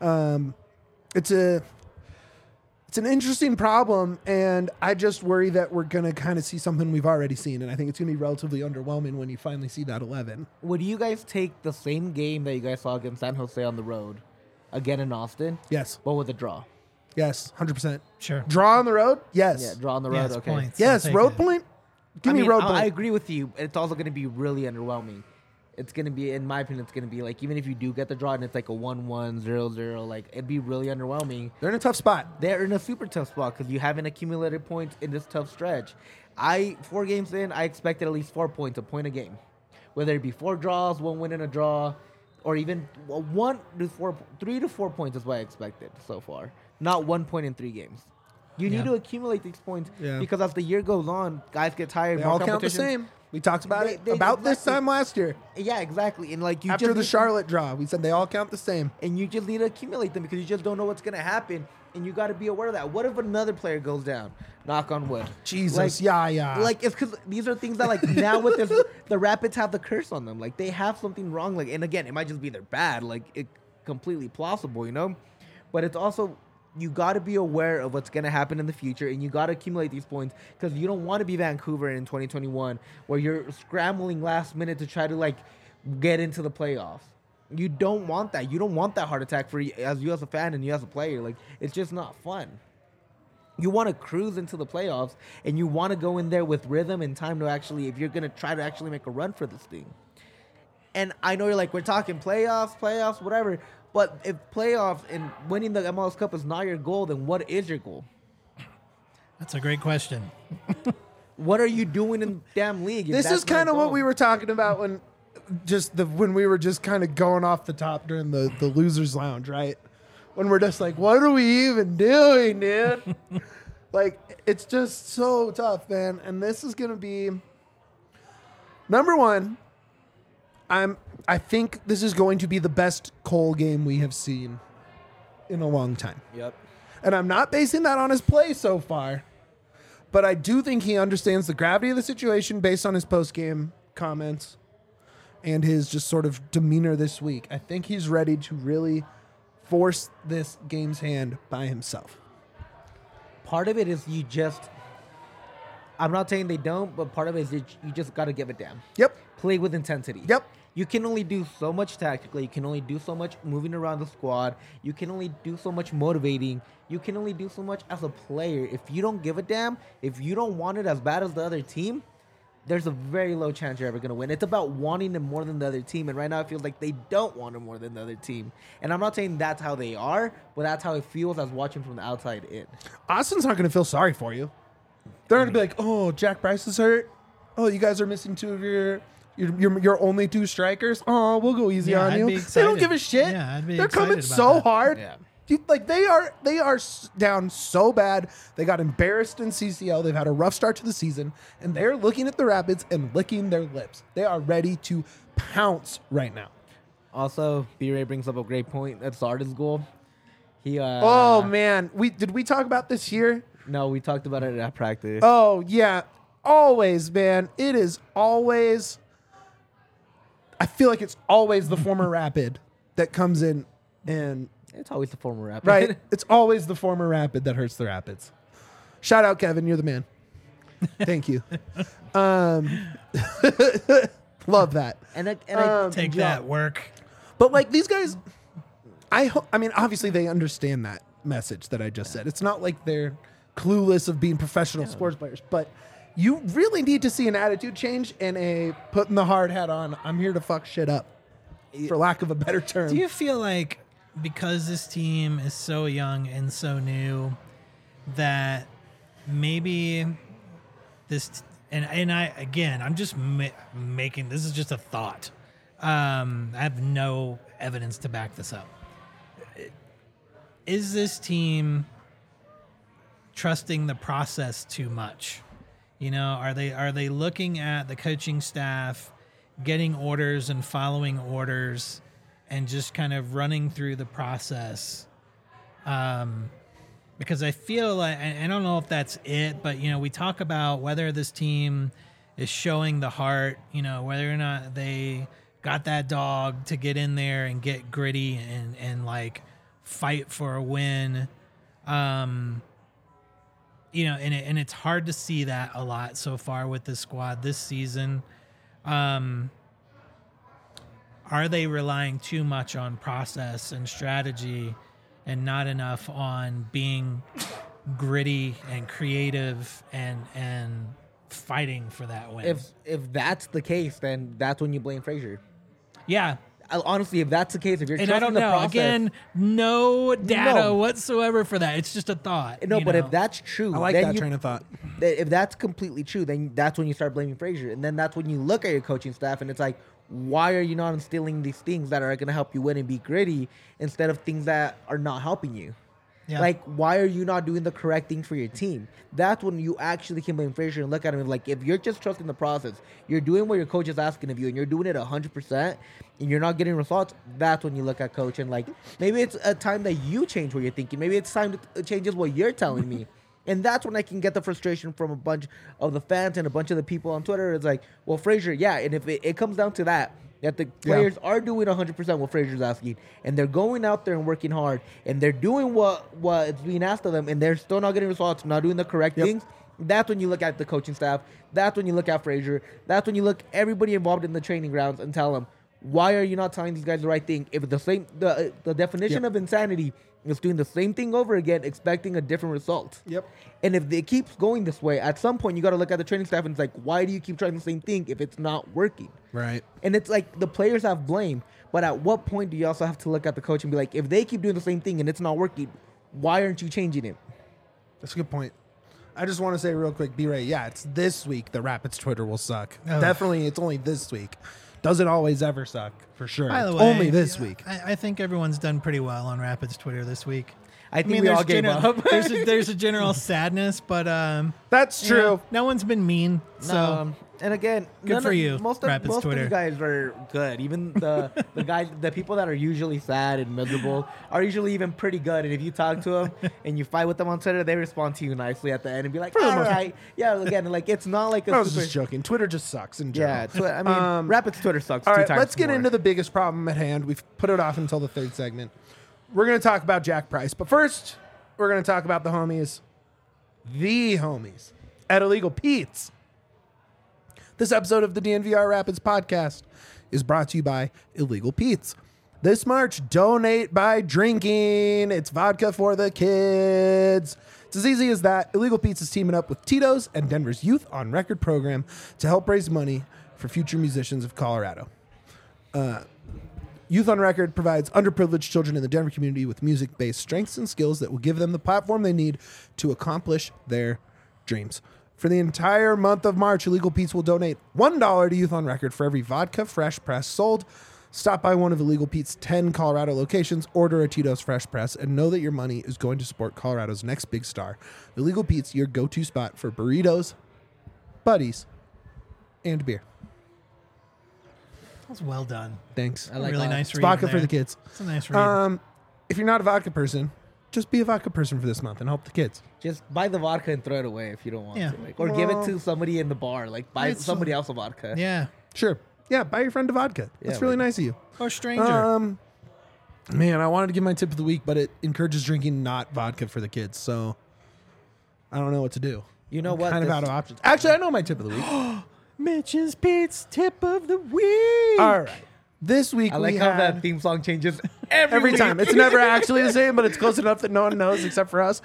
Speaker 1: It's an interesting problem, and I just worry that we're going to kind of see something we've already seen, and I think it's going to be relatively underwhelming when you finally see that 11.
Speaker 2: Would you guys take the same game that you guys saw against San Jose on the road, again in Austin,
Speaker 1: Yes.
Speaker 2: but with a draw?
Speaker 1: Yes, 100%.
Speaker 3: Sure.
Speaker 1: Draw on the road? Yes.
Speaker 2: Yeah, draw on the road,
Speaker 3: Yes,
Speaker 2: okay.
Speaker 3: points.
Speaker 1: Yes,
Speaker 3: I'll take
Speaker 1: road
Speaker 3: it.
Speaker 1: point? Give me road point.
Speaker 2: I agree with you. It's also going to be really underwhelming. It's going to be, in my opinion, it's going to be like, even if you do get the draw and it's like a 1-1, 0-0, like, it'd be really underwhelming.
Speaker 1: They're in a tough spot.
Speaker 2: They're in a super tough spot because you haven't accumulated points in this tough stretch. 4 games in, I expected at least 4 points, a point a game. Whether it be 4 draws, 1 win and a draw, or even 3 to 4 points is what I expected so far. Not 1 point in 3 games. You need to accumulate these points because as the year goes on, guys get tired.
Speaker 1: They
Speaker 2: more
Speaker 1: all count the
Speaker 2: competition.
Speaker 1: same. We talked about
Speaker 2: They-
Speaker 1: it
Speaker 2: they-
Speaker 1: about this
Speaker 2: exactly.
Speaker 1: time last year.
Speaker 2: Yeah, exactly. And like you
Speaker 1: After
Speaker 2: just
Speaker 1: the
Speaker 2: need-
Speaker 1: Charlotte draw, we said they all count the same.
Speaker 2: and you just need to accumulate them because you just don't know what's going to happen. And you got to be aware of that. What if another player goes down? Knock on wood.
Speaker 1: Jesus,
Speaker 2: Like,
Speaker 1: yeah.
Speaker 2: Like, it's because these are things that, like, now with this, the Rapids have the curse on them. Like, they have something wrong. Like, and again, it might just be they're bad. Like, it completely plausible, you know? But it's also, you got to be aware of what's going to happen in the future, and you got to accumulate these points because you don't want to be Vancouver in 2021 where you're scrambling last minute to try to, like, get into the playoffs. You don't want that. You don't want that heart attack for you as a fan and you as a player. Like, it's just not fun. You want to cruise into the playoffs, and you want to go in there with rhythm and time to actually, if you're going to try to actually make a run for this thing. And I know you're like, we're talking playoffs, whatever. But if playoffs and winning the MLS Cup is not your goal, then what is your goal?
Speaker 3: That's a great question.
Speaker 2: What are you doing in the damn league?
Speaker 1: This is kind of what we were talking about when we were just kind of going off the top during the losers lounge, right? When we're just like, what are we even doing, dude? Like, it's just so tough, man. And this is gonna be number one. I think this is going to be the best Cole game we have seen in a long time.
Speaker 2: Yep.
Speaker 1: And I'm not basing that on his play so far, but I do think he understands the gravity of the situation based on his post-game comments and his just sort of demeanor this week. I think he's ready to really force this game's hand by himself.
Speaker 2: Part of it is I'm not saying they don't, but part of it is you just got to give a damn.
Speaker 1: Yep.
Speaker 2: Play with intensity.
Speaker 1: Yep.
Speaker 2: You can only do so much tactically. You can only do so much moving around the squad. You can only do so much motivating. You can only do so much as a player. If you don't give a damn, if you don't want it as bad as the other team, there's a very low chance you're ever going to win. It's about wanting it more than the other team. And right now it feels like they don't want it more than the other team. And I'm not saying that's how they are, but that's how it feels as watching from the outside in.
Speaker 1: Austin's not going to feel sorry for you. They're going to be like, oh, Jack Bryce is hurt. Oh, you guys are missing two of your only two strikers. Oh, we'll go easy on
Speaker 3: I'd
Speaker 1: you.
Speaker 3: be
Speaker 1: They don't
Speaker 3: excited.
Speaker 1: give a shit.
Speaker 3: Yeah, I'd be
Speaker 1: They're coming
Speaker 3: excited
Speaker 1: so
Speaker 3: about that.
Speaker 1: hard.
Speaker 2: Yeah.
Speaker 1: Dude, like they are down so bad. They got embarrassed in CCL. They've had a rough start to the season, and they're looking at the Rapids and licking their lips. They are ready to pounce right now.
Speaker 2: Also, B-Ray brings up a great point. That's Zarda's goal. He.
Speaker 1: Oh man, did we talk about this here?
Speaker 2: No, we talked about it at practice.
Speaker 1: Oh yeah, always, man. It is always. I feel like it's always the former Rapid that comes in and.
Speaker 2: It's always the former Rapid.
Speaker 1: Right. It's always the former Rapid that hurts the Rapids. Shout out, Kevin. You're the man. Thank you. Love that.
Speaker 2: And I
Speaker 3: Take that work.
Speaker 1: But like these guys, I mean, obviously they understand that message that I just said. It's not like they're clueless of being professional sports players, but you really need to see an attitude change and a putting the hard hat on. I'm here to fuck shit up, for lack of a better term.
Speaker 3: Do you feel like because this team is so young and so new that maybe this and I again I'm just making this is just a thought. I have no evidence to back this up. Is this team trusting the process too much? You know, are they looking at the coaching staff getting orders and following orders and just kind of running through the process? Because I feel like, I don't know if that's it, but, you know, we talk about whether this team is showing the heart, you know, whether or not they got that dog to get in there and get gritty and like fight for a win. You know, and it's hard to see that a lot so far with this squad this season. Are they relying too much on process and strategy and not enough on being gritty and creative and fighting for that win?
Speaker 2: if that's the case, then that's when you blame Frazier.
Speaker 3: Yeah.
Speaker 2: Honestly, if that's the case, if you're
Speaker 3: And
Speaker 2: trusting
Speaker 3: I don't
Speaker 2: the
Speaker 3: know.
Speaker 2: process,
Speaker 3: Again, no data
Speaker 2: No.
Speaker 3: whatsoever for that. It's just a thought.
Speaker 2: no.
Speaker 3: you
Speaker 2: But
Speaker 3: know?
Speaker 2: if that's true,
Speaker 1: I like
Speaker 2: then
Speaker 1: that
Speaker 2: you,
Speaker 1: train of thought.
Speaker 2: if that's completely true, then that's when you start blaming Frazier, and then that's when you look at your coaching staff and it's like, why are you not instilling these things that are going to help you win and be gritty instead of things that are not helping you?
Speaker 3: Yeah.
Speaker 2: Like, why are you not doing the correct thing for your team? That's when you actually can blame Frazier and look at him and like, if you're just trusting the process, you're doing what your coach is asking of you, and you're doing it 100%, and you're not getting results. That's when you look at coach and like, maybe it's a time that you change what you're thinking. Maybe it's time to changes what you're telling me. And that's when I can get the frustration from a bunch of the fans and a bunch of the people on Twitter. It's like, well, Frazier, yeah. And if it comes down to that the players are doing 100% what Frazier's asking, and they're going out there and working hard, and they're doing what is being asked of them, and they're still not getting results, not doing the correct things, that's when you look at the coaching staff. That's when you look at Frazier. That's when you look everybody involved in the training grounds and tell them, why are you not telling these guys the right thing? If the definition of insanity is doing the same thing over again, expecting a different result.
Speaker 1: Yep.
Speaker 2: And if it keeps going this way, at some point you got to look at the training staff and it's like, why do you keep trying the same thing if it's not working?
Speaker 1: Right.
Speaker 2: And it's like the players have blame, but at what point do you also have to look at the coach and be like, if they keep doing the same thing and it's not working, why aren't you changing it?
Speaker 1: That's a good point. I just want to say real quick, B-Ray, yeah, it's this week the Rapids Twitter will suck.
Speaker 3: Oh.
Speaker 1: Definitely, it's only this week. Doesn't always ever suck, for sure.
Speaker 3: By the
Speaker 1: It's
Speaker 3: way,
Speaker 1: only this week.
Speaker 3: I think everyone's done pretty well on Rapids Twitter this week.
Speaker 2: I think we all gave up.
Speaker 3: there's a general sadness, but
Speaker 1: That's true.
Speaker 3: you know, no one's been mean. So
Speaker 2: and again,
Speaker 3: Good for you,
Speaker 2: Most
Speaker 3: Rapids
Speaker 2: of
Speaker 3: Twitter.
Speaker 2: you guys are good. Even the people that are usually sad and miserable are usually even pretty good. And if you talk to them and you fight with them on Twitter, they respond to you nicely at the end and be like, "All right, yeah." Again, like it's not like a
Speaker 1: I was
Speaker 2: super.
Speaker 1: just joking. Twitter just sucks in general.
Speaker 2: Yeah, I mean, Rapids Twitter sucks.
Speaker 1: All
Speaker 2: two
Speaker 1: right,
Speaker 2: times
Speaker 1: let's get
Speaker 2: more.
Speaker 1: into the biggest problem at hand. We've put it off until the third segment. We're going to talk about Jack Price. But first, we're going to talk about the homies at Illegal Pete's. This episode of the DNVR Rapids podcast is brought to you by Illegal Pete's. This March, donate by drinking. It's vodka for the kids. It's as easy as that. Illegal Pete's is teaming up with Tito's and Denver's Youth on Record program to help raise money for future musicians of Colorado. Youth on Record provides underprivileged children in the Denver community with music-based strengths and skills that will give them the platform they need to accomplish their dreams. For the entire month of March, Illegal Pete's will donate $1 to Youth on Record for every vodka fresh press sold. Stop by one of Illegal Pete's 10 Colorado locations, order a Tito's Fresh Press, and know that your money is going to support Colorado's next big star. Illegal Pete's, your go-to spot for burritos, buddies, and beer.
Speaker 3: that was well done.
Speaker 1: Thanks.
Speaker 2: I like
Speaker 3: really
Speaker 2: that.
Speaker 3: nice
Speaker 1: It's
Speaker 3: read.
Speaker 1: vodka
Speaker 3: there.
Speaker 1: for the kids.
Speaker 3: It's a nice read.
Speaker 1: If you're not a vodka person, just be a vodka person for this month and help the kids.
Speaker 2: Just buy the vodka and throw it away if you don't want
Speaker 3: Yeah.
Speaker 2: to, or give it to somebody in the bar. Like buy
Speaker 3: It's-
Speaker 2: somebody else a vodka.
Speaker 3: yeah,
Speaker 1: Sure. Yeah, buy your friend a vodka. That's
Speaker 2: Yeah,
Speaker 1: really
Speaker 2: like-
Speaker 1: nice of you.
Speaker 3: or stranger.
Speaker 1: Man, I wanted to give my tip of the week, but it encourages drinking not vodka for the kids, so I don't know what to do.
Speaker 2: You know
Speaker 1: I'm
Speaker 2: what?
Speaker 1: kind of
Speaker 2: This-
Speaker 1: out of options. Actually, I know my tip of the week.
Speaker 3: Mitch's Pete's tip of the week.
Speaker 1: All right. This week
Speaker 2: I like
Speaker 1: we
Speaker 2: how
Speaker 1: had
Speaker 2: that theme song changes every
Speaker 1: every
Speaker 2: week.
Speaker 1: time. It's never actually the same, but it's close enough that no one knows except for us.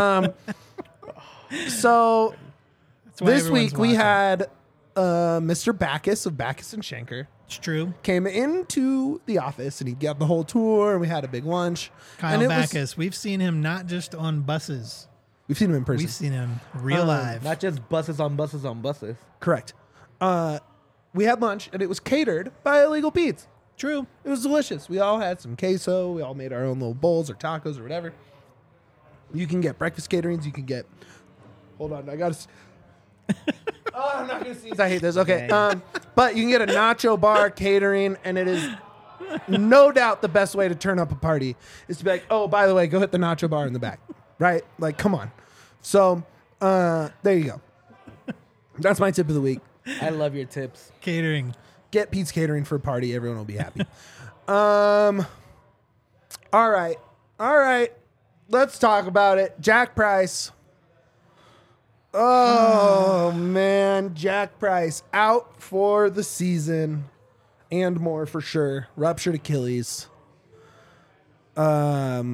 Speaker 1: So
Speaker 3: That's why
Speaker 1: this
Speaker 3: everyone's
Speaker 1: week we
Speaker 3: watching.
Speaker 1: had Mr. Backus of Backus and Schenker
Speaker 3: It's true.
Speaker 1: came into the office and he got the whole tour and we had a big lunch.
Speaker 3: Kyle
Speaker 1: and
Speaker 3: Backus. We've seen him not just on buses.
Speaker 1: We've seen him in person.
Speaker 3: We've seen him real live.
Speaker 2: Not just buses on buses on buses.
Speaker 1: Correct. We had lunch and it was catered by Illegal Pete's.
Speaker 3: True.
Speaker 1: It was delicious. We all had some queso. We all made our own little bowls or tacos or whatever. You can get breakfast caterings. You can get. Hold on, I got to. Oh, I'm not gonna sneeze. I hate this. Okay, but you can get a nacho bar catering, and it is no doubt the best way to turn up a party is to be like, oh, by the way, go hit the nacho bar in the back, right? Like, come on. So there you go. That's my tip of the week.
Speaker 2: I love your tips.
Speaker 3: Catering.
Speaker 1: Get Pete's Catering for a party. Everyone will be happy. All right. Let's talk about it. Jack Price. Oh, man. Jack Price out for the season and more for sure. Ruptured Achilles. Where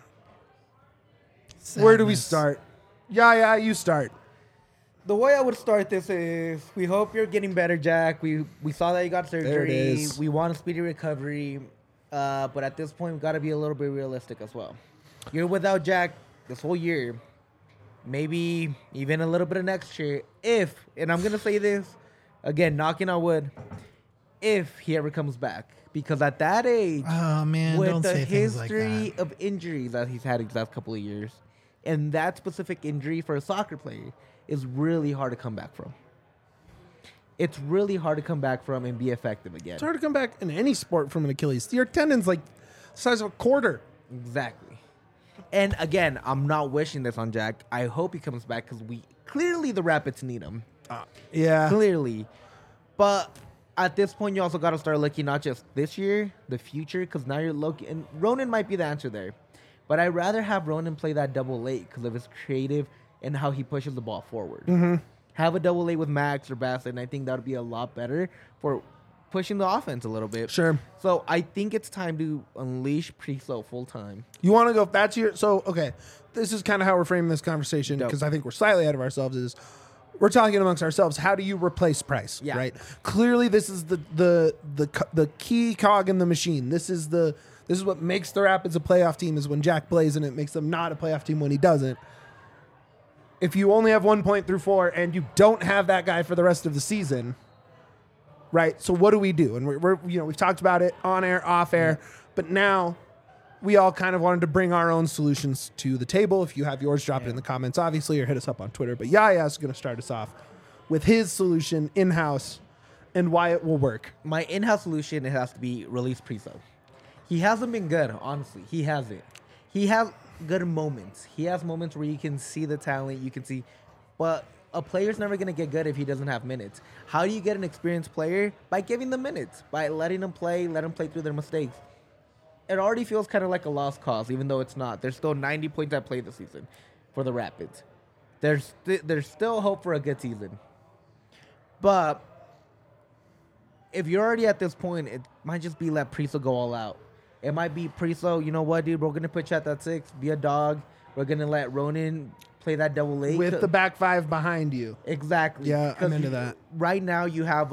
Speaker 1: do we
Speaker 3: Sadness.
Speaker 1: start? Yeah, you start.
Speaker 2: The way I would start this is we hope you're getting better, Jack. We saw that you got surgery.
Speaker 1: There it is.
Speaker 2: We want a speedy recovery. But at this point, we've got to be a little bit realistic as well. You're without Jack this whole year. Maybe even a little bit of next year. And I'm going to say this, again, knocking on wood, if he ever comes back. Because at that age,
Speaker 3: Oh man,
Speaker 2: with
Speaker 3: don't
Speaker 2: the
Speaker 3: say things like
Speaker 2: history
Speaker 3: that.
Speaker 2: of injuries that he's had these last couple of years, and that specific injury for a soccer player is really hard to come back from. It's really hard to come back from and be effective again.
Speaker 1: It's hard to come back in any sport from an Achilles. Your tendon's like the size of a quarter.
Speaker 2: Exactly. And again, I'm not wishing this on Jack. I hope he comes back because clearly the Rapids need him.
Speaker 1: Yeah.
Speaker 2: Clearly. But at this point, you also got to start looking not just this year, the future, because now you're looking. And Ronan might be the answer there. But I'd rather have Ronan play that double eight because of his creative and how he pushes the ball forward.
Speaker 1: Mm-hmm.
Speaker 2: Have a double eight with Max or Bassett, and I think that would be a lot better for pushing the offense a little bit.
Speaker 1: Sure.
Speaker 2: So I think it's time to unleash Priso full time.
Speaker 1: You want to go, that's your, so, okay. This is kind of how we're framing this conversation
Speaker 2: Dope.
Speaker 1: because I think we're slightly ahead of ourselves is we're talking amongst ourselves. How do you replace Price?
Speaker 2: Yeah.
Speaker 1: Right. Clearly this is the key cog in the machine. This is what makes the Rapids a playoff team is when Jack plays, and it makes them not a playoff team when he doesn't. If you only have 1 point through 4 and you don't have that guy for the rest of the season, right? So what do we do? And we're we've talked about it on air, off air, but now we all kind of wanted to bring our own solutions to the table. If you have yours, drop it in the comments, obviously, or hit us up on Twitter. But Yaya is going to start us off with his solution in-house and why it will work.
Speaker 2: My in-house solution, it has to be release Priso. He hasn't been good, honestly. He hasn't. He has good moments. He has moments where you can see the talent, you can see, but a player's never going to get good if he doesn't have minutes. How do you get an experienced player? By giving them minutes, by letting them play, let them play through their mistakes. It already feels kind of like a lost cause, even though it's not. There's still 90 points at play this season for the Rapids. There's still hope for a good season. But if you're already at this point, it might just be let Priso go all out. It might be Priso, you know what, dude, we're going to put you at that 6, be a dog. We're going to let Ronan play that double eight.
Speaker 1: With the back 5 behind you.
Speaker 2: Exactly.
Speaker 1: Yeah, I'm
Speaker 2: 'Cause
Speaker 1: into that.
Speaker 2: Right now you have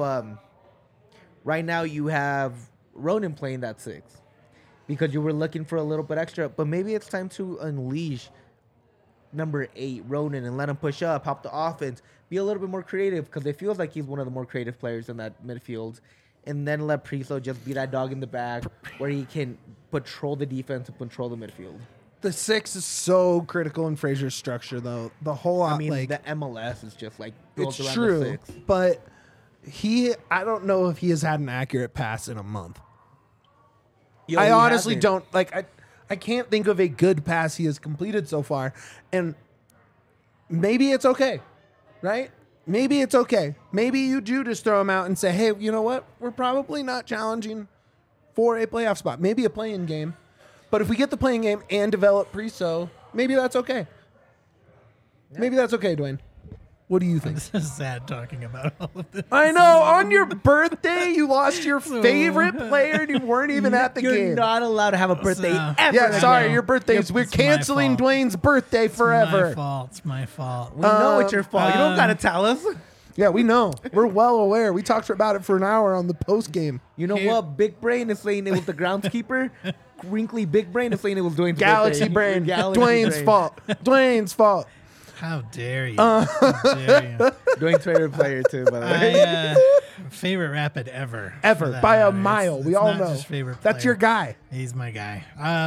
Speaker 2: Ronan playing that 6 because you were looking for a little bit extra. But maybe it's time to unleash number 8, Ronan, and let him push up, help the offense, be a little bit more creative because it feels like he's one of the more creative players in that midfield. And then let Priso just be that dog in the back where he can patrol the defense and control the midfield.
Speaker 1: The 6 is so critical in Fraser's structure, though. The whole,
Speaker 2: I mean,
Speaker 1: like,
Speaker 2: the MLS is just like built
Speaker 1: it's
Speaker 2: around
Speaker 1: true,
Speaker 2: the 6.
Speaker 1: but I don't know if he has had an accurate pass in a month.
Speaker 2: Yo,
Speaker 1: I
Speaker 2: he
Speaker 1: honestly
Speaker 2: hasn't.
Speaker 1: don't, like, I can't think of a good pass he has completed so far, and maybe it's okay, right? Maybe it's okay. Maybe you do just throw him out and say, hey, you know what? We're probably not challenging for a playoff spot. Maybe a play-in game. But if we get the playing game and develop Priso, maybe that's okay. Maybe that's okay, Dwayne. What do you think?
Speaker 3: This is sad talking about all of this.
Speaker 1: I know. On your birthday, you lost your favorite player and you weren't even at the
Speaker 2: You're
Speaker 1: game.
Speaker 2: not allowed to have a birthday
Speaker 3: So-
Speaker 2: ever.
Speaker 1: Yeah,
Speaker 2: again.
Speaker 1: sorry, your birthday is. We're
Speaker 3: It's my
Speaker 1: canceling
Speaker 3: fault.
Speaker 1: Dwayne's birthday
Speaker 3: My
Speaker 1: forever.
Speaker 3: fault. It's my fault.
Speaker 2: We know it's your fault. You don't gotta tell us.
Speaker 1: Yeah, we know. We're well aware. We talked about it for an hour on the post game.
Speaker 2: You know
Speaker 3: Here-
Speaker 2: what? Big Brain is saying it was the groundskeeper. Wrinkly Big Brain is saying it was Dwayne's
Speaker 1: Galaxy
Speaker 2: birthday.
Speaker 1: brain.
Speaker 2: Galaxy
Speaker 1: Dwayne's
Speaker 2: brain.
Speaker 1: fault. Dwayne's fault.
Speaker 3: How dare you? How dare you?
Speaker 2: Dwayne's favorite player too, by the way.
Speaker 3: Favorite Rapid ever.
Speaker 1: Ever.
Speaker 3: for that
Speaker 1: By a
Speaker 3: matter.
Speaker 1: mile.
Speaker 3: It's
Speaker 1: We all
Speaker 3: not
Speaker 1: know.
Speaker 3: just favorite
Speaker 1: That's
Speaker 3: player.
Speaker 1: your guy.
Speaker 3: He's my guy.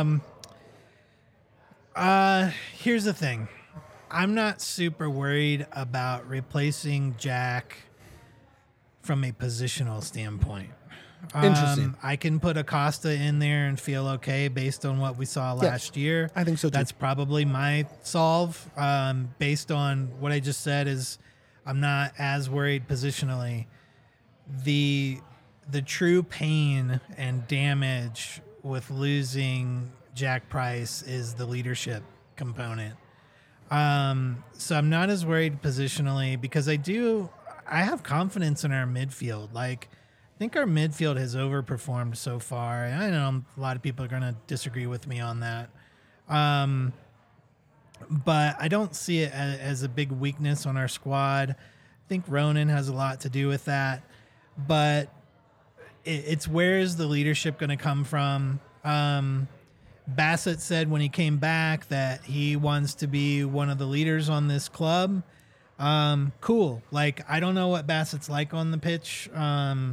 Speaker 3: Here's the thing. I'm not super worried about replacing Jack from a positional standpoint.
Speaker 1: Interesting.
Speaker 3: I can put Acosta in there and feel okay based on what we saw last year.
Speaker 1: I think so, too.
Speaker 3: That's probably my solve. Based on what I just said is I'm not as worried positionally. The true pain and damage with losing Jack Price is the leadership component. So I'm not as worried positionally because I have confidence in our midfield. Like, I think our midfield has overperformed so far. And I know a lot of people are going to disagree with me on that. But I don't see it as a big weakness on our squad. I think Ronan has a lot to do with that. But it's where is the leadership going to come from? Bassett said when he came back that he wants to be one of the leaders on this club. Cool. Like, I don't know what Bassett's like on the pitch.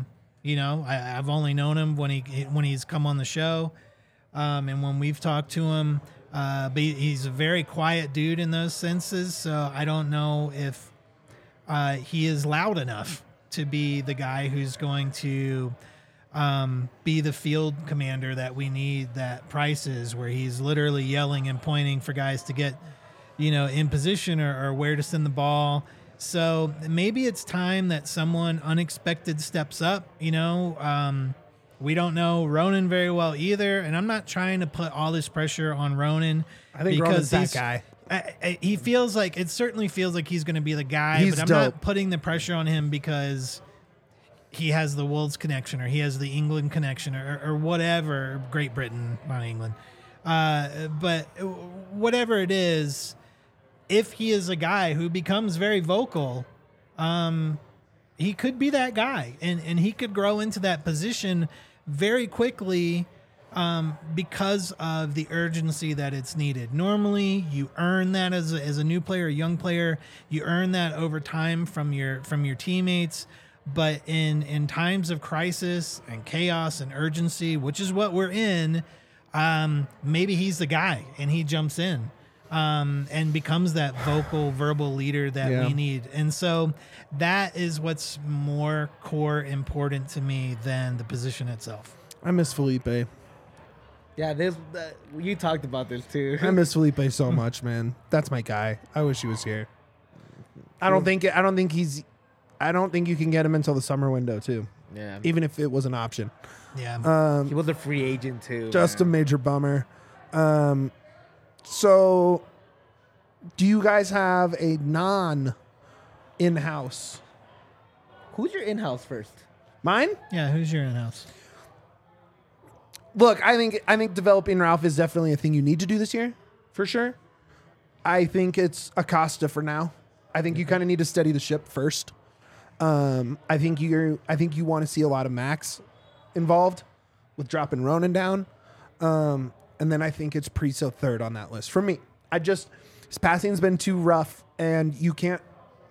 Speaker 3: You know, I've only known him when he's come on the show, and when we've talked to him. But he's a very quiet dude in those senses, so I don't know if he is loud enough to be the guy who's going to be the field commander that we need that Price is, where he's literally yelling and pointing for guys to get, in position or where to send the ball. So maybe it's time that someone unexpected steps up, We don't know Ronan very well either, and I'm not trying to put all this pressure on Ronan.
Speaker 1: I think Ronan's that guy.
Speaker 3: He feels like it certainly feels like he's going to be the guy,
Speaker 1: He's
Speaker 3: but I'm
Speaker 1: dope.
Speaker 3: not putting the pressure on him because he has the Wolves connection or he has the England connection or whatever. Great Britain, not England, but whatever it is, if he is a guy who becomes very vocal, he could be that guy, and he could grow into that position very quickly because of the urgency that it's needed. Normally, you earn that as a new player, a young player. You earn that over time from your teammates. But in times of crisis and chaos and urgency, which is what we're in, maybe he's the guy and he jumps in and becomes that verbal leader that we need. And so that is what's more core important to me than the position itself.
Speaker 1: I miss Felipe.
Speaker 2: Yeah, you talked about this too.
Speaker 1: I miss Felipe so much, man. That's my guy. I wish he was here. I don't think you can get him until the summer window too.
Speaker 2: Yeah,
Speaker 1: Even if it was an option.
Speaker 3: Yeah.
Speaker 2: he was a free agent too.
Speaker 1: Just a
Speaker 2: man.
Speaker 1: major bummer. So do you guys have a in-house?
Speaker 2: Who's your in-house first?
Speaker 1: Mine?
Speaker 3: Yeah. Who's your in-house?
Speaker 1: Look, I think developing Ralph is definitely a thing you need to do this year, for sure. I think it's Acosta for now. I think you kind of need to steady the ship first. I think you want to see a lot of Max involved with dropping Ronan down. And then I think it's Priso third on that list. For me, his passing's been too rough, and you can't.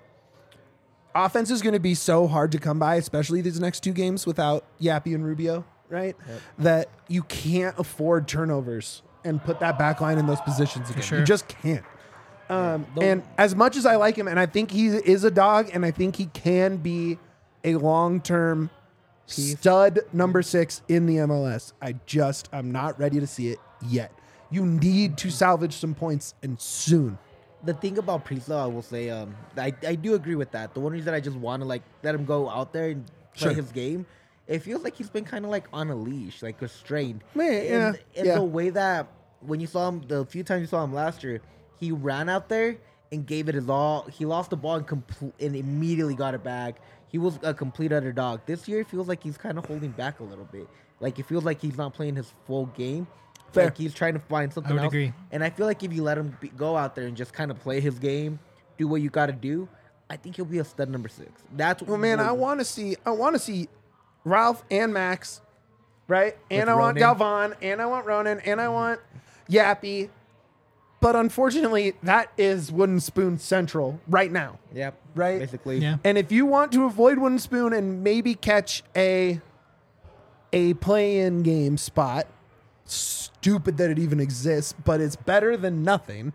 Speaker 1: Offense is going to be so hard to come by, especially these next two games without Yappy and Rubio, right? Yep. That you can't afford turnovers and put that back line in those positions again.
Speaker 3: Sure.
Speaker 1: You just can't. And as much as I like him, and I think he is a dog, and I think he can be a long-term stud number 6 in the MLS, I'm not ready to see it yet. You need to salvage some points, and soon.
Speaker 2: The thing about Priso, I will say, I do agree with that. The one reason I just want to let him go out there and play his game, it feels like he's been kind of on a leash, restrained.
Speaker 1: Man,
Speaker 2: in the way that when you saw him, the few times you saw him last year, he ran out there and gave it his all. He lost the ball and immediately got it back. He was a complete underdog. This year, it feels like he's kind of holding back a little bit. It feels like he's not playing his full game.
Speaker 1: Fair.
Speaker 2: He's trying to find something else.
Speaker 3: Agree.
Speaker 2: And I feel like if you let him go out there and just kind of play his game, do what you got to do, I think he'll be a stud number 6. That's
Speaker 1: well, man. I want to see Ralph and Max, right? And I want
Speaker 2: Ronan.
Speaker 1: Galvan, and I want Ronan, and I want Yappy. But unfortunately, that is Wooden Spoon Central right now.
Speaker 2: Yep.
Speaker 1: Right?
Speaker 2: Basically.
Speaker 3: Yeah.
Speaker 1: And if you want to avoid Wooden Spoon and maybe catch a play-in game spot, stupid that it even exists, but it's better than nothing.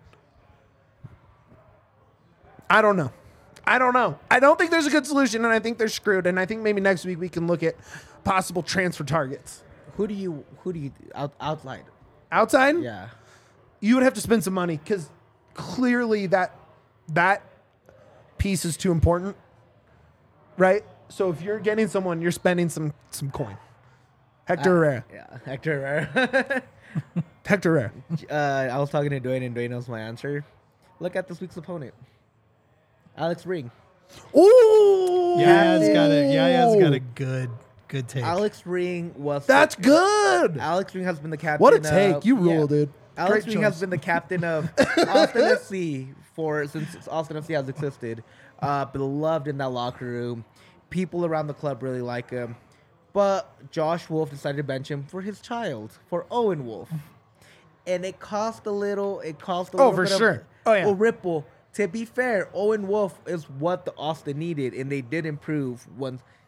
Speaker 1: I don't know. I don't think there's a good solution, and I think they're screwed. And I think maybe next week we can look at possible transfer targets.
Speaker 2: Who do you outside?
Speaker 1: Outside?
Speaker 2: Yeah.
Speaker 1: You would have to spend some money because clearly that piece is too important, right? So if you're getting someone, you're spending some coin. Hector Herrera.
Speaker 2: Yeah, Hector Herrera.
Speaker 1: Hector Herrera.
Speaker 2: I was talking to Dwayne, and Dwayne knows my answer. Look at this week's opponent. Alex Ring.
Speaker 1: Ooh!
Speaker 3: Yaya's got a good take.
Speaker 2: Alex Ring was...
Speaker 1: That's good!
Speaker 2: Alex Ring has been the captain.
Speaker 1: What a take. You rule, dude.
Speaker 2: Alex
Speaker 1: Great
Speaker 2: Ring
Speaker 1: choice.
Speaker 2: has been the captain of Austin FC since Austin FC has existed. Beloved in that locker room. People around the club really like him. But Josh Wolf decided to bench him for his child, for Owen Wolf. And it caused a little
Speaker 1: for
Speaker 2: bit
Speaker 1: sure.
Speaker 2: of
Speaker 1: A
Speaker 2: a ripple. To be fair, Owen Wolf is what the Austin needed, and they did improve once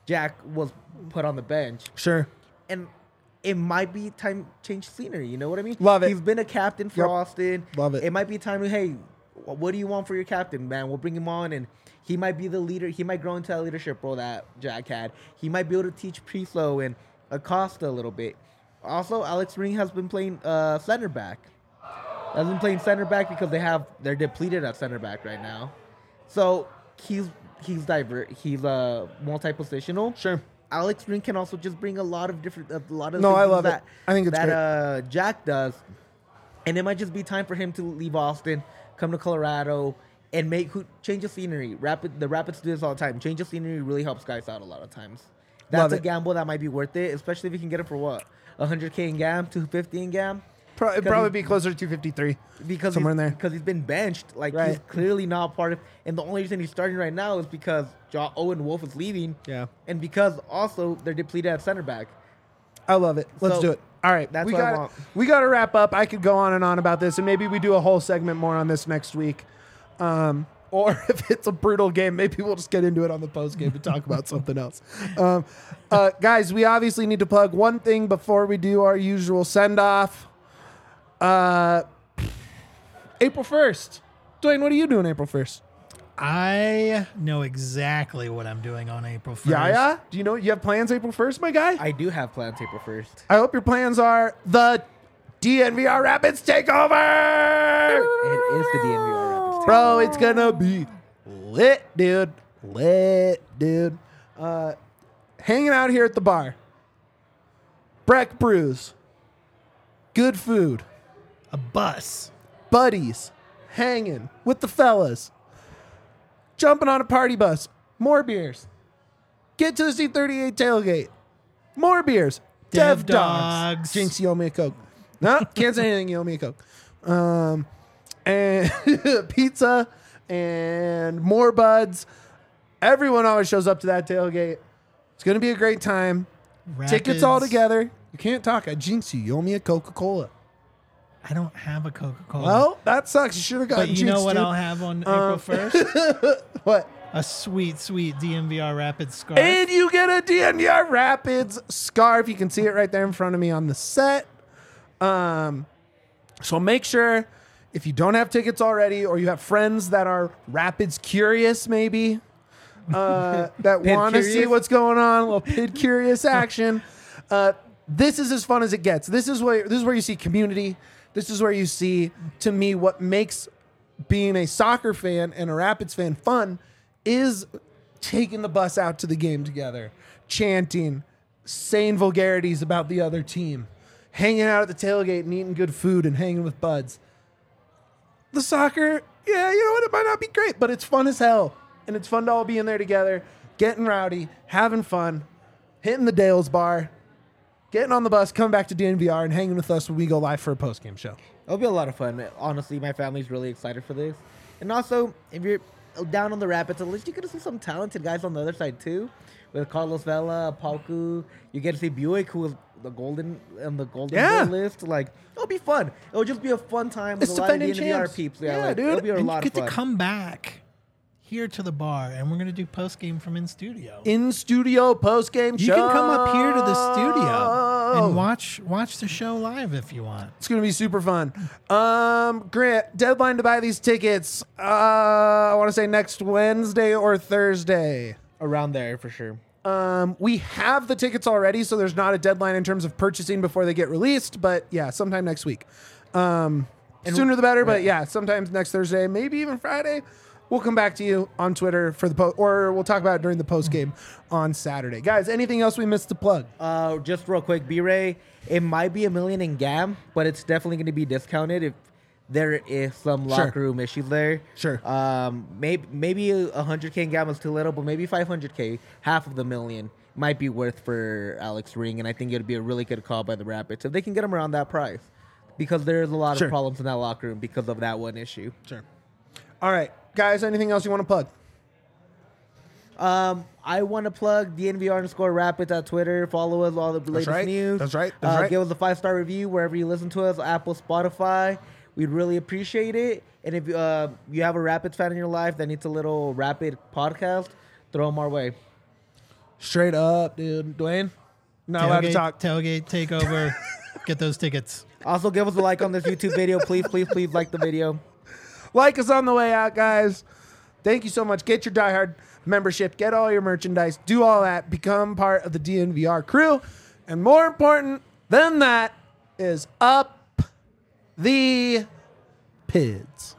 Speaker 2: Jack was put on the bench.
Speaker 1: Sure.
Speaker 2: And it might be time to change scenery. You know what I mean?
Speaker 1: Love it.
Speaker 2: He's been a captain for
Speaker 1: Yep.
Speaker 2: Austin.
Speaker 1: Love it.
Speaker 2: It might be time to, hey, what do you want for your captain, man? We'll bring him on, and he might be the leader. He might grow into that leadership role that Jack had. He might be able to teach Priso and Acosta a little bit. Also, Alex Ring has been playing center back. Has been playing center back because they're depleted at center back right now. So he's multi-positional.
Speaker 1: Sure.
Speaker 2: Alex Ring can also just bring a lot of
Speaker 1: No,
Speaker 2: things
Speaker 1: I love it.
Speaker 2: that
Speaker 1: I think it's
Speaker 2: that Jack does, and it might just be time for him to leave Austin, come to Colorado, and change the scenery. The Rapids do this all the time. Change the scenery really helps guys out a lot of times. That's
Speaker 1: Love
Speaker 2: a
Speaker 1: it.
Speaker 2: gamble that might be worth it, especially if you can get it for what, 100K in GAM, 250 in GAM.
Speaker 1: It'd probably be closer to 253.
Speaker 2: Because
Speaker 1: Somewhere in there.
Speaker 2: Because he's been benched. Like, he's
Speaker 1: Right.
Speaker 2: clearly not part of... And the only reason he's starting right now is because Owen Wolf is leaving.
Speaker 1: Yeah.
Speaker 2: And because also they're depleted at center back.
Speaker 1: I love it. Let's
Speaker 2: So,
Speaker 1: do it. All right.
Speaker 2: that's
Speaker 1: we
Speaker 2: what I
Speaker 1: got
Speaker 2: want.
Speaker 1: We got to wrap up. I could go on and on about this, and maybe we do a whole segment more on this next week. Or if it's a brutal game, maybe we'll just get into it on the post game and talk about something else. Guys, we obviously need to plug one thing before we do our usual send off. April 1st. Dwayne, what are you doing April 1st?
Speaker 3: I know exactly what I'm doing on April 1st.
Speaker 1: Yeah? Do you know you have plans April 1st, my guy?
Speaker 2: I do have plans April 1st.
Speaker 1: I hope your plans are the DNVR Rapids takeover.
Speaker 2: It is the DNVR Rapids.
Speaker 1: Bro, it's gonna be lit, dude. Lit, dude. Hanging out here at the bar. Breck Brews. Good food.
Speaker 3: A bus.
Speaker 1: Buddies. Hanging with the fellas. Jumping on a party bus. More beers. Get to the C38 tailgate. More beers.
Speaker 3: Dev
Speaker 1: Dogs.
Speaker 3: Dogs.
Speaker 1: Jinx, you owe me a Coke. No, can't say anything. You owe me a Coke. And pizza and more buds. Everyone always shows up to that tailgate. It's going to be a great time. Tickets all
Speaker 3: Rapids.
Speaker 1: together. You can't talk. I jinx you. You owe me a Coca-Cola.
Speaker 3: I don't have a Coca-Cola.
Speaker 1: Well, that sucks. You should have gotten
Speaker 3: but you know
Speaker 1: jinxed,
Speaker 3: what
Speaker 1: dude.
Speaker 3: I'll have on April 1st?
Speaker 1: What?
Speaker 3: A sweet, sweet DMVR Rapids scarf.
Speaker 1: And you get a DNVR Rapids scarf. You can see it right there in front of me on the set. So make sure, if you don't have tickets already, or you have friends that are Rapids curious, maybe, that want to see
Speaker 2: curious?
Speaker 1: what's going on, a little pid curious action. This is as fun as it gets. This is where you see community. This is where you see, to me, what makes being a soccer fan and a Rapids fan fun is taking the bus out to the game together, chanting, saying vulgarities about the other team, hanging out at the tailgate and eating good food and hanging with buds. The soccer, yeah, you know what? It might not be great, but it's fun as hell. And it's fun to all be in there together, getting rowdy, having fun, hitting the Dales bar, getting on the bus, coming back to DNVR, and hanging with us when we go live for a post-game show.
Speaker 2: It'll be a lot of fun. Honestly, my family's really excited for this. And also, if you're down on the Rapids, at least you get to see some talented guys on the other side too. With Carlos Vela, Pauku, you get to see Buick, who was the golden
Speaker 1: Yeah.
Speaker 2: goal list. Like, it'll be fun. It'll just be a fun time with
Speaker 1: It's
Speaker 2: a lot of
Speaker 1: defending
Speaker 2: DNVR
Speaker 1: champs.
Speaker 2: peeps.
Speaker 1: Yeah,
Speaker 2: like,
Speaker 1: dude.
Speaker 2: It'll be a
Speaker 3: And
Speaker 2: lot
Speaker 3: you
Speaker 2: of
Speaker 3: get
Speaker 2: fun.
Speaker 3: to come back here to the bar, and we're going to do post-game from in studio.
Speaker 1: In studio post-game
Speaker 3: You
Speaker 1: show.
Speaker 3: can come up here to the studio and watch the show live if you want.
Speaker 1: It's going to be super fun. Grant, deadline to buy these tickets. I want to say next Wednesday or Thursday.
Speaker 2: Around there for sure.
Speaker 1: We have the tickets already, so there's not a deadline in terms of purchasing before they get released. But yeah, sometime next week. Sooner the better. But yeah, sometimes next Thursday, maybe even Friday. We'll come back to you on Twitter for the or we'll talk about it during the post game on Saturday. Guys, anything else we missed to plug?
Speaker 2: Just real quick, B-Ray, it might be $1 million in GAM, but it's definitely going to be discounted if there is some
Speaker 1: Sure.
Speaker 2: locker room issues there.
Speaker 1: Sure.
Speaker 2: Maybe 100K in GAM is too little, but maybe 500K, half of the million, might be worth for Alex Ring, and I think it would be a really good call by the Rapids if they can get him around that price, because there's a lot
Speaker 1: Sure.
Speaker 2: of problems in that locker room because of that one issue.
Speaker 1: Sure. All right, guys, anything else you want to plug?
Speaker 2: I want to plug DNVR_Rapids at Twitter. Follow us, all the latest
Speaker 1: right.
Speaker 2: news.
Speaker 1: That's right. That's right.
Speaker 2: Give us a 5-star review wherever you listen to us, Apple, Spotify. We'd really appreciate it. And if you have a Rapids fan in your life that needs a little Rapid podcast, throw them our way.
Speaker 1: Straight up, dude. Dwayne, not allowed to talk.
Speaker 3: Tailgate takeover. Get those tickets.
Speaker 2: Also, give us a like on this YouTube video. Please, please, please like the video.
Speaker 1: Like us on the way out, guys. Thank you so much. Get your Die Hard membership. Get all your merchandise. Do all that. Become part of the DNVR crew. And more important than that is up the PIDs.